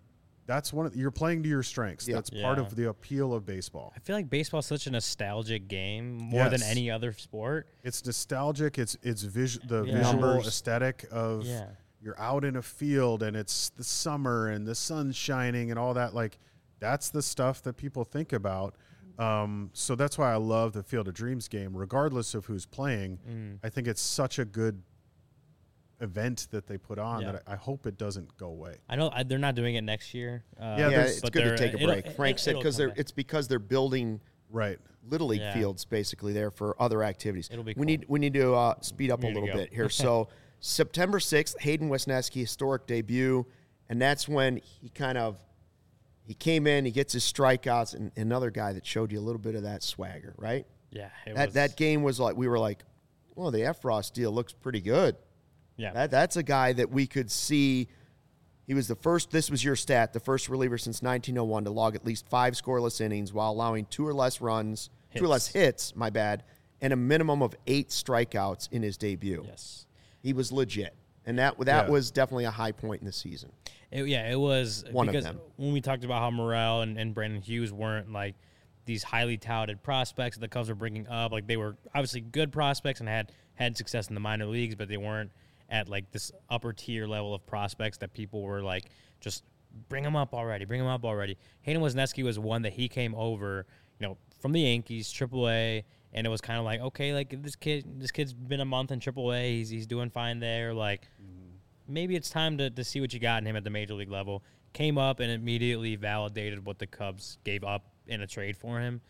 that's you're playing to your strengths.
Yeah.
That's part of the appeal of baseball.
I feel like baseball is such a nostalgic game more than any other sport.
It's nostalgic. It's the visual
Numbers.
aesthetic of you're out in a field and it's the summer and the sun's shining and all that. Like, that's the stuff that people think about. So that's why I love the Field of Dreams game, regardless of who's playing. I think it's such a good event that they put on that I hope it doesn't go away.
I know they're not doing it next year.
It's good to take a break. Frank said because they're building Little League fields basically there for other activities.
It'll be
We need to speed up a little bit here. So September 6th, Hayden Wesneski, historic debut, and that's when he came in, he gets his strikeouts, and another guy that showed you a little bit of that swagger, right?
Yeah.
That game was like, we were like, well, the Efros deal looks pretty good.
Yeah.
That's a guy that we could see. He was the first, this was your stat, the first reliever since 1901 to log at least 5 scoreless innings while allowing 2 or less hits, and a minimum of 8 strikeouts in his debut.
Yes.
He was legit. And that was definitely a high point in the season.
It was
one
because
of them.
When we talked about how Morel and Brandon Hughes weren't like these highly touted prospects that the Cubs were bringing up, like they were obviously good prospects and had success in the minor leagues, but they weren't at like this upper tier level of prospects that people were like, just bring them up already. Hayden Wesneski was one that he came over, from the Yankees, AAA, and it was kind of like, okay, like this kid's been a month in AAA, he's doing fine there, like maybe it's time to see what you got in him at the major league level. Came up and immediately validated what the Cubs gave up in a trade for him.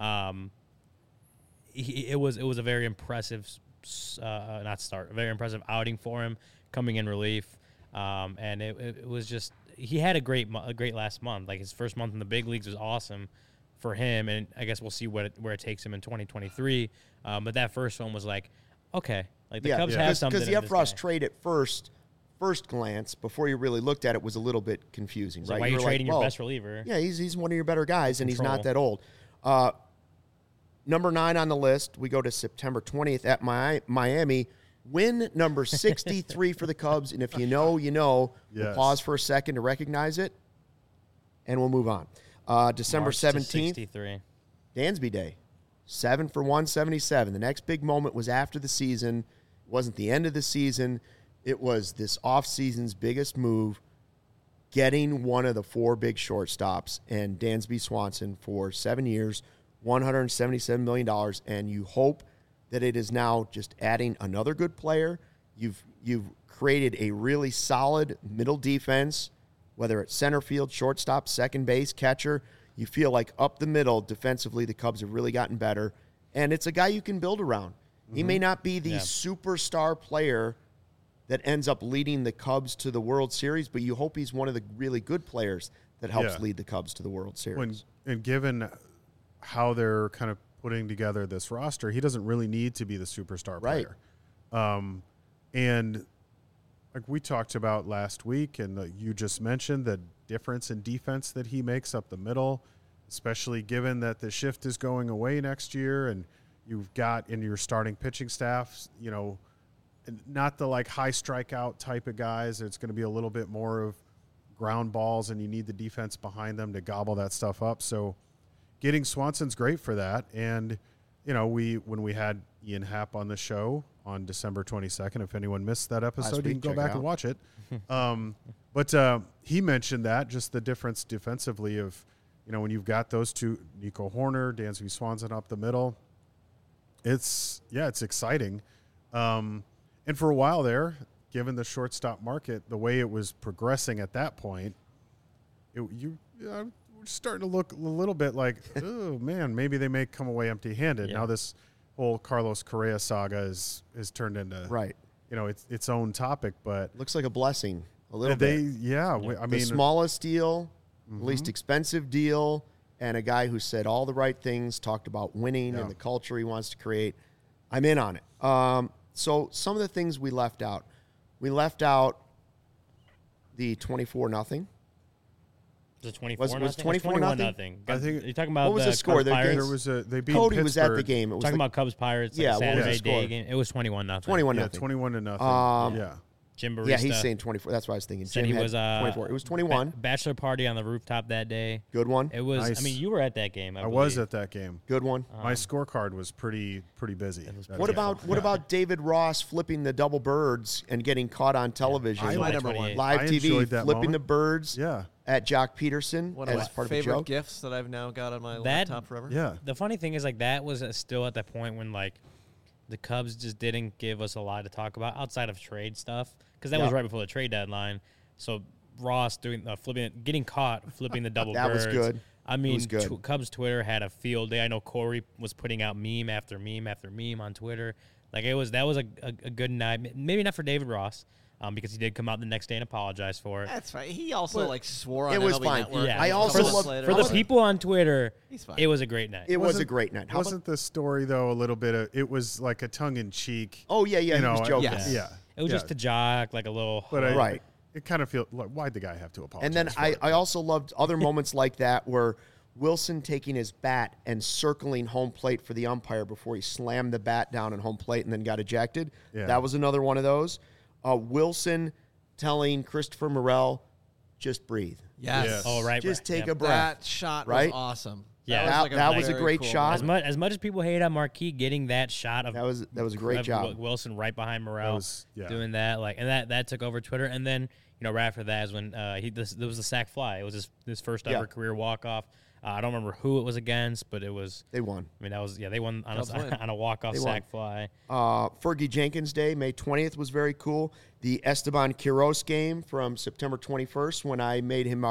It was a very impressive a very impressive outing for him coming in relief. And it was just, he had a great last month. Like his first month in the big leagues was awesome for him. And I guess we'll see where it takes him in 2023. But that first one was like, okay, like the Cubs have something.
Because the Efros trade at first glance, before you really looked at it, was a little bit confusing, right?
Why are you trading your best reliever?
Yeah, he's one of your better guys, and he's not that old. Number 9 on the list, we go to September 20th at Miami. Win number 63 for the Cubs, and if you know, you know.
Yes.
We'll pause for a second to recognize it, and we'll move on. December
March
17th,
63.
Dansby Day, 7 for 177. The next big moment was after the season. It wasn't the end of the season. It was this offseason's biggest move, getting one of the 4 big shortstops, and Dansby Swanson for 7 years, $177 million, and you hope that it is now just adding another good player. You've created a really solid middle defense, whether it's center field, shortstop, second base, catcher. You feel like up the middle defensively the Cubs have really gotten better, and it's a guy you can build around. He may not be the superstar player that ends up leading the Cubs to the World Series, but you hope he's one of the really good players that helps lead the Cubs to the World Series.
And given how they're kind of putting together this roster, he doesn't really need to be the superstar player. And like we talked about last week, and you just mentioned the difference in defense that he makes up the middle, especially given that the shift is going away next year, and you've got in your starting pitching staff, not the like high strikeout type of guys. It's going to be a little bit more of ground balls, and you need the defense behind them to gobble that stuff up. So getting Swanson's great for that. And, when we had Ian Happ on the show on December 22nd, if anyone missed that episode, you can go back and watch it. But he mentioned that, just the difference defensively of, when you've got those two, Nico Horner, Dansby Swanson up the middle, it's exciting. And for a while there, given the shortstop market, the way it was progressing at that point, we're starting to look a little bit like, oh, man, maybe they may come away empty-handed. Yeah. Now this whole Carlos Correa saga is turned into, its own topic. But
looks like a blessing a little bit. The smallest deal, least expensive deal, and a guy who said all the right things, talked about winning and the culture he wants to create. I'm in on it. So some of the things we left out. We left out the 24-0.
Was it 24-0?
Was 24-0?
I think you're talking about
what was the score?
They beat
Cody
Pittsburgh.
was at the game. It was
talking about Cubs Pirates.
Yeah,
Saturday
day
game. It was 21-0.
21-0.
Yeah, 21-0.
Jim Barista.
Yeah, he's saying 24. That's what I was thinking.
Said
Jim
he
had
was
24. It was 21.
Bachelor party on the rooftop that day.
Good one.
It was.
Nice.
I mean, you were at that game.
I was at that game.
Good one.
My scorecard was pretty busy. That
What
day.
about David Ross flipping the double birds and getting caught on television?
I
my
liked
number
it.
one.
Live
I
TV,
enjoyed that
flipping
moment.
the birds
Yeah,
at Jock Peterson
One of
as
my
part of a
favorite
joke.
gifts that I've now got on my
That-
laptop forever.
yeah.
The funny thing is, like, that was still at that point when, like, the Cubs just didn't give us a lot to talk about outside of trade stuff, because that was
Yeah.
right before the trade deadline. So Ross doing getting caught flipping the double
That was
birds.
good.
I mean,
was good.
Cubs Twitter had a field day. I know Corey was putting out meme after meme after meme on Twitter. Like, that was a good night. Maybe not for David Ross, because he did come out the next day and apologize for it.
That's fine. He also
Well,
like swore on
it was
MLB
fine.
Network.
Yeah,
I
a
also
couple
love-
months later.
for the people on Twitter.
He's fine.
It was a great night.
It was a
Wasn't-
great night. How about,
Wasn't the story though a little bit of? It was like a tongue in cheek.
oh, yeah, he was joking.
yes.
Yeah,
It was
yeah.
just a jock, like a little.
But
Right.
It kind of feel like, why'd the guy have to apologize?
And then
for
I
it?
also loved other moments like that where Wilson taking his bat and circling home plate for the umpire before he slammed the bat down at home plate and then got ejected.
Yeah.
That was another one of those. Wilson telling Christopher Morel, just breathe.
Yes.
Yes.
Oh, right.
Just
right,
take
yeah.
a breath.
That shot
Right?
was awesome.
Yeah.
That was a
very
great
cool
shot.
moment.
As much as people hate on Marquis getting that shot of
That was a great
of
job.
Wilson right behind Morel
That was- yeah.
doing that, like, and that took over Twitter. And then, you know, right after that is when there was the sack fly. It was his first ever
Yeah.
career walk off. I don't remember who it was against, but it was.
They won.
I mean, they won on
Cubs win.
on a walk off
They
sack
won.
fly.
Fergie Jenkins Day, May 20th, was very cool. The Esteban Quiroz game from September 21st, when I made him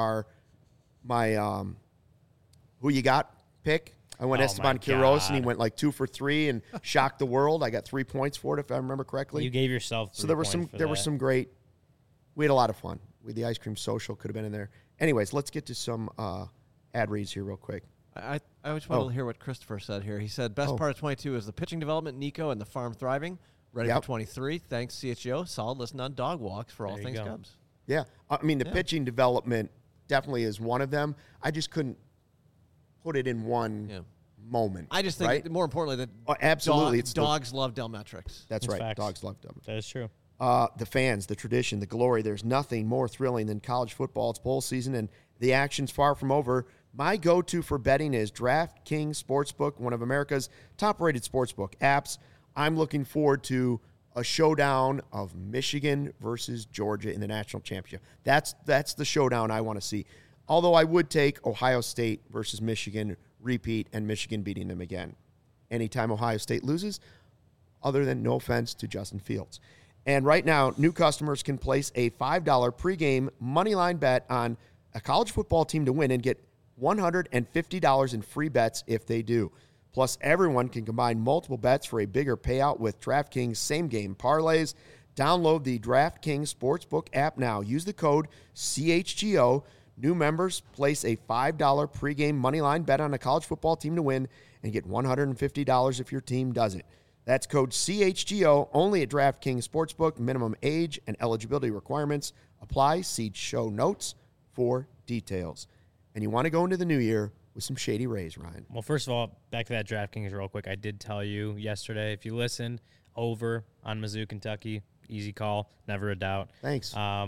my who you got pick. I went
Oh,
Esteban
my
Quiroz, and he
God.
went like 2 for 3 and shocked the world. I got 3 points for it, if I remember correctly.
You gave yourself.
So there were some great. We had a lot of fun. The ice cream social could have been in there. Anyways, let's get to some ad reads here real quick.
I just want to hear what Christopher said here. He said, best part of 22 is the pitching development, Nico, and the farm thriving. Ready
Yep.
for 23. Thanks, CHGO. Solid listen on dog walks for all
There you
things
go.
Cubs.
Yeah, I mean the pitching development definitely is one of them. I just couldn't put it in one
Yeah.
moment.
I just think,
right?
more importantly, that
Oh, absolutely, it's the-
dogs love Delmetrics.
That's
It's
right.
facts.
Dogs love them.
That is true.
The fans, the tradition, the glory. There's nothing more thrilling than college football. It's bowl season, and the action's far from over. My go-to for betting is DraftKings Sportsbook, one of America's top-rated sportsbook apps. I'm looking forward to a showdown of Michigan versus Georgia in the national championship. That's the showdown I want to see. Although I would take Ohio State versus Michigan repeat and Michigan beating them again. Anytime Ohio State loses, other than no offense to Justin Fields. And right now, new customers can place a $5 pregame moneyline bet on a college football team to win and get $150 in free bets if they do. Plus, everyone can combine multiple bets for a bigger payout with DraftKings same-game parlays. Download the DraftKings Sportsbook app now. Use the code CHGO. New members place a $5 pregame moneyline bet on a college football team to win and get $150 if your team does it. That's code CHGO only at DraftKings Sportsbook. Minimum age and eligibility requirements apply. See show notes for details. And you want to go into the new year with some Shady Rays, Ryan.
Well, first of all, back to that DraftKings real quick. I did tell you yesterday, if you listened, over on Mizzou, Kentucky, easy call, never a doubt.
Thanks.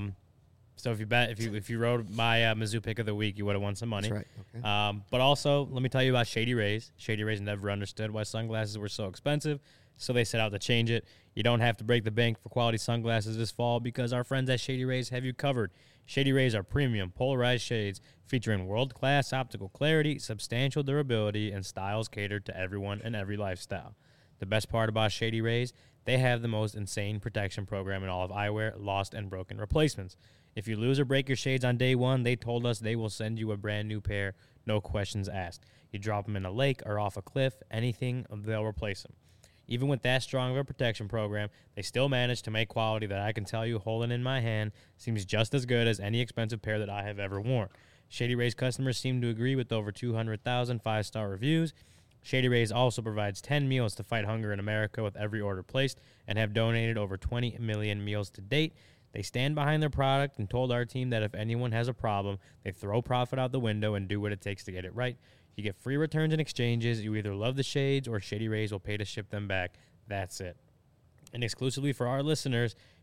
So if you wrote my Mizzou pick of the week, you would have won some money.
That's right. Okay.
But also, let me tell you about Shady Rays. Shady Rays never understood why sunglasses were so expensive, so they set out to change it. You don't have to break the bank for quality sunglasses this fall because our friends at Shady Rays have you covered. Shady Rays are premium polarized shades featuring world-class optical clarity, substantial durability, and styles catered to everyone and every lifestyle. The best part about Shady Rays, they have the most insane protection program in all of eyewear, lost and broken replacements. If you lose or break your shades on day one, they told us they will send you a brand new pair, no questions asked. You drop them in a lake or off a cliff, anything, they'll replace them. Even with that strong of a protection program, they still manage to make quality that I can tell you, holding in my hand, seems just as good as any expensive pair that I have ever worn. Shady Rays customers seem to agree with over 200,000 five-star reviews. Shady Rays also provides 10 meals to fight hunger in America with every order placed and have donated over 20 million meals to date. They stand behind their product and told our team that if anyone has a problem, they throw profit out the window and do what it takes to get it right. You get free returns and exchanges. You either love the shades or Shady Rays will pay to ship them back. That's it. And exclusively for our listeners,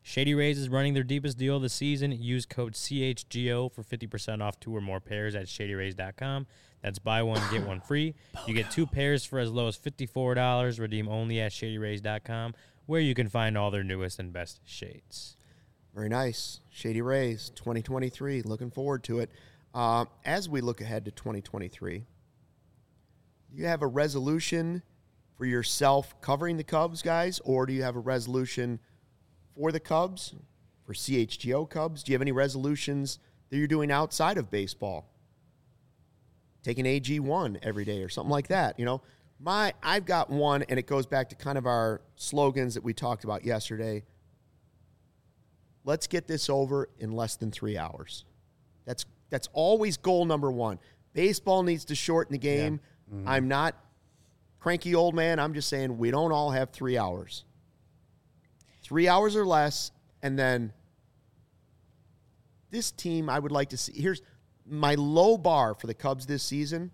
Shady Rays is running their deepest deal of the season. Use code CHGO for 50% off 2 or more pairs at ShadyRays.com. That's buy one, get one free. You get 2 pairs for as low as $54. Redeem only at ShadyRays.com, where you can find all their newest and best shades.
Very nice. Shady Rays, 2023. Looking forward to it. As we look ahead to 2023, do you have a resolution for yourself covering the Cubs, guys, or do you have a resolution for the Cubs, for CHGO Cubs? Do you have any resolutions that you're doing outside of baseball? Taking AG1 every day or something like that, you know? I've got one, and it goes back to kind of our slogans that we talked about yesterday. Let's get this over in less than 3 hours. That's always goal number one. Baseball needs to shorten the game. Yeah. Mm-hmm. I'm not cranky old man. I'm just saying we don't all have 3 hours. 3 hours or less, and then this team I would like to see. Here's my low bar for the Cubs this season,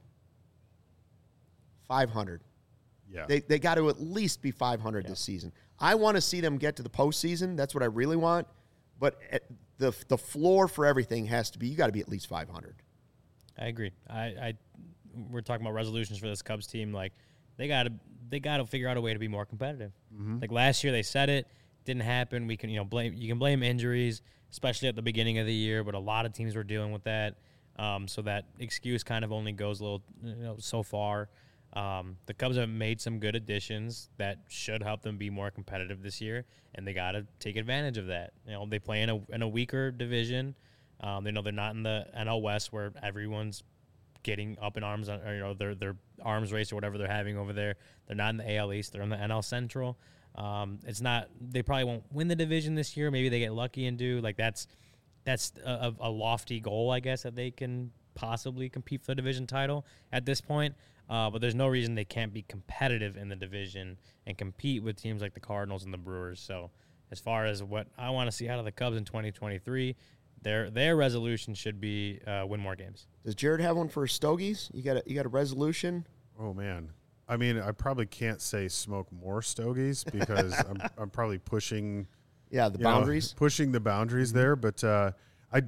500.
Yeah.
They got to at least be 500 this season. I want to see them get to the postseason. That's what I really want. But the floor for everything has to be, you got to be at least 500.
I agree. We're talking about resolutions for this Cubs team. Like, they got to figure out a way to be more competitive. Mm-hmm. Like last year, they said it didn't happen. We can you can blame injuries, especially at the beginning of the year. But a lot of teams were dealing with that. So that excuse kind of only goes a little so far. The Cubs have made some good additions that should help them be more competitive this year, and they got to take advantage of that. They play in a weaker division. They know they're not in the NL West where everyone's getting up in arms, or their arms race or whatever they're having over there. They're not in the AL East. They're in the NL Central. It's not. They probably won't win the division this year. Maybe they get lucky and do. Like that's a lofty goal, I guess, that they can possibly compete for the division title at this point. But there's no reason they can't be competitive in the division and compete with teams like the Cardinals and the Brewers. So as far as what I want to see out of the Cubs in 2023, their resolution should be win more games.
Does Jared have one for Stogies? You got a resolution?
Oh, man. I mean, I probably can't say smoke more stogies because I'm probably pushing
the boundaries.
Pushing the boundaries there. But I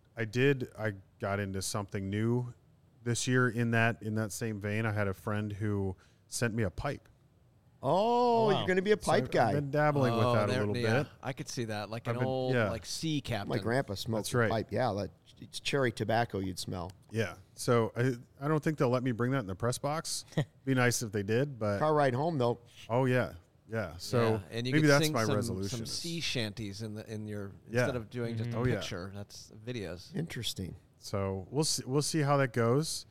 got into something new this year in that same vein. I had a friend who sent me a pipe.
Oh, wow. You're going to be a pipe guy.
I've been dabbling with that a little bit.
I could see that, like like sea captain.
My grandpa smokes a pipe. Yeah, it's cherry tobacco you'd smell.
Yeah. So I don't think they'll let me bring that in the press box. Be nice if they did, but
car ride home though.
Oh yeah. Yeah. So
and you
maybe that's
sing
my resolution.
Some sea shanties in your instead of doing just a picture. That's videos.
Interesting.
So we'll see how that goes.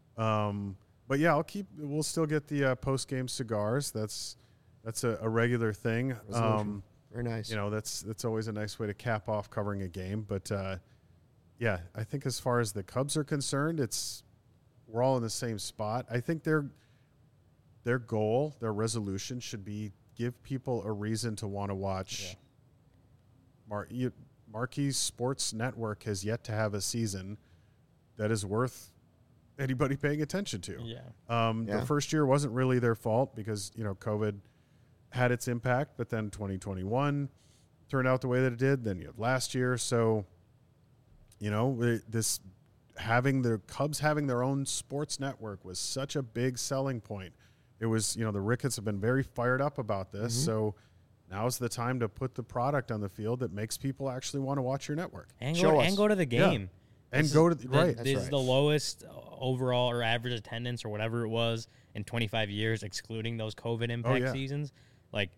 But yeah, we'll still get the post game cigars. That's a regular thing.
Very nice.
That's always a nice way to cap off covering a game. But yeah, I think as far as the Cubs are concerned, we're all in the same spot. I think their goal, their resolution should be give people a reason to want to watch. Yeah. Marquee Sports Network has yet to have a season that is worth anybody paying attention to.
Yeah.
The first year wasn't really their fault because, COVID had its impact, but then 2021 turned out the way that it did. Then you had last year. So, the Cubs having their own sports network was such a big selling point. It was, the Ricketts have been very fired up about this. Mm-hmm. So now's the time to put the product on the field that makes people actually want to watch your network.
And go to the game.
Yeah. And go to
This is the lowest overall or average attendance or whatever it was in 25 years, excluding those COVID impact seasons. Like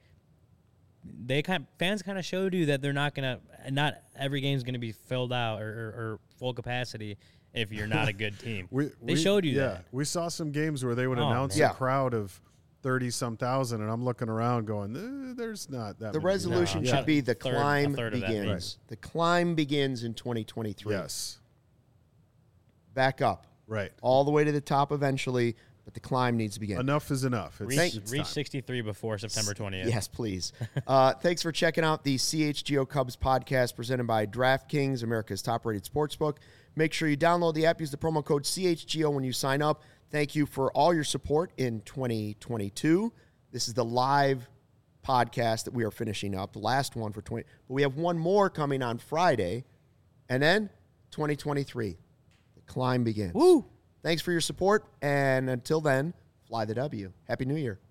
fans kind of showed you that they're not every game's gonna be filled out or full capacity if you're not a good team. They showed you that.
We saw some games where they would announce a crowd of 30-some thousand, and I'm looking around going, there's not that.
The resolution should be the climb begins. Right. The climb begins in 2023.
Yes.
Back up.
Right.
All the way to the top eventually, but the climb needs to begin.
Enough is enough.
Reach 63 before September 20th.
Yes, please. Thanks for checking out the CHGO Cubs podcast presented by DraftKings, America's top-rated sportsbook. Make sure you download the app. Use the promo code CHGO when you sign up. Thank you for all your support in 2022. This is the live podcast that we are finishing up, the last one for 20. But we have one more coming on Friday, and then 2023. The climb begins.
Woo!
Thanks for your support, and until then, fly the W. Happy New Year.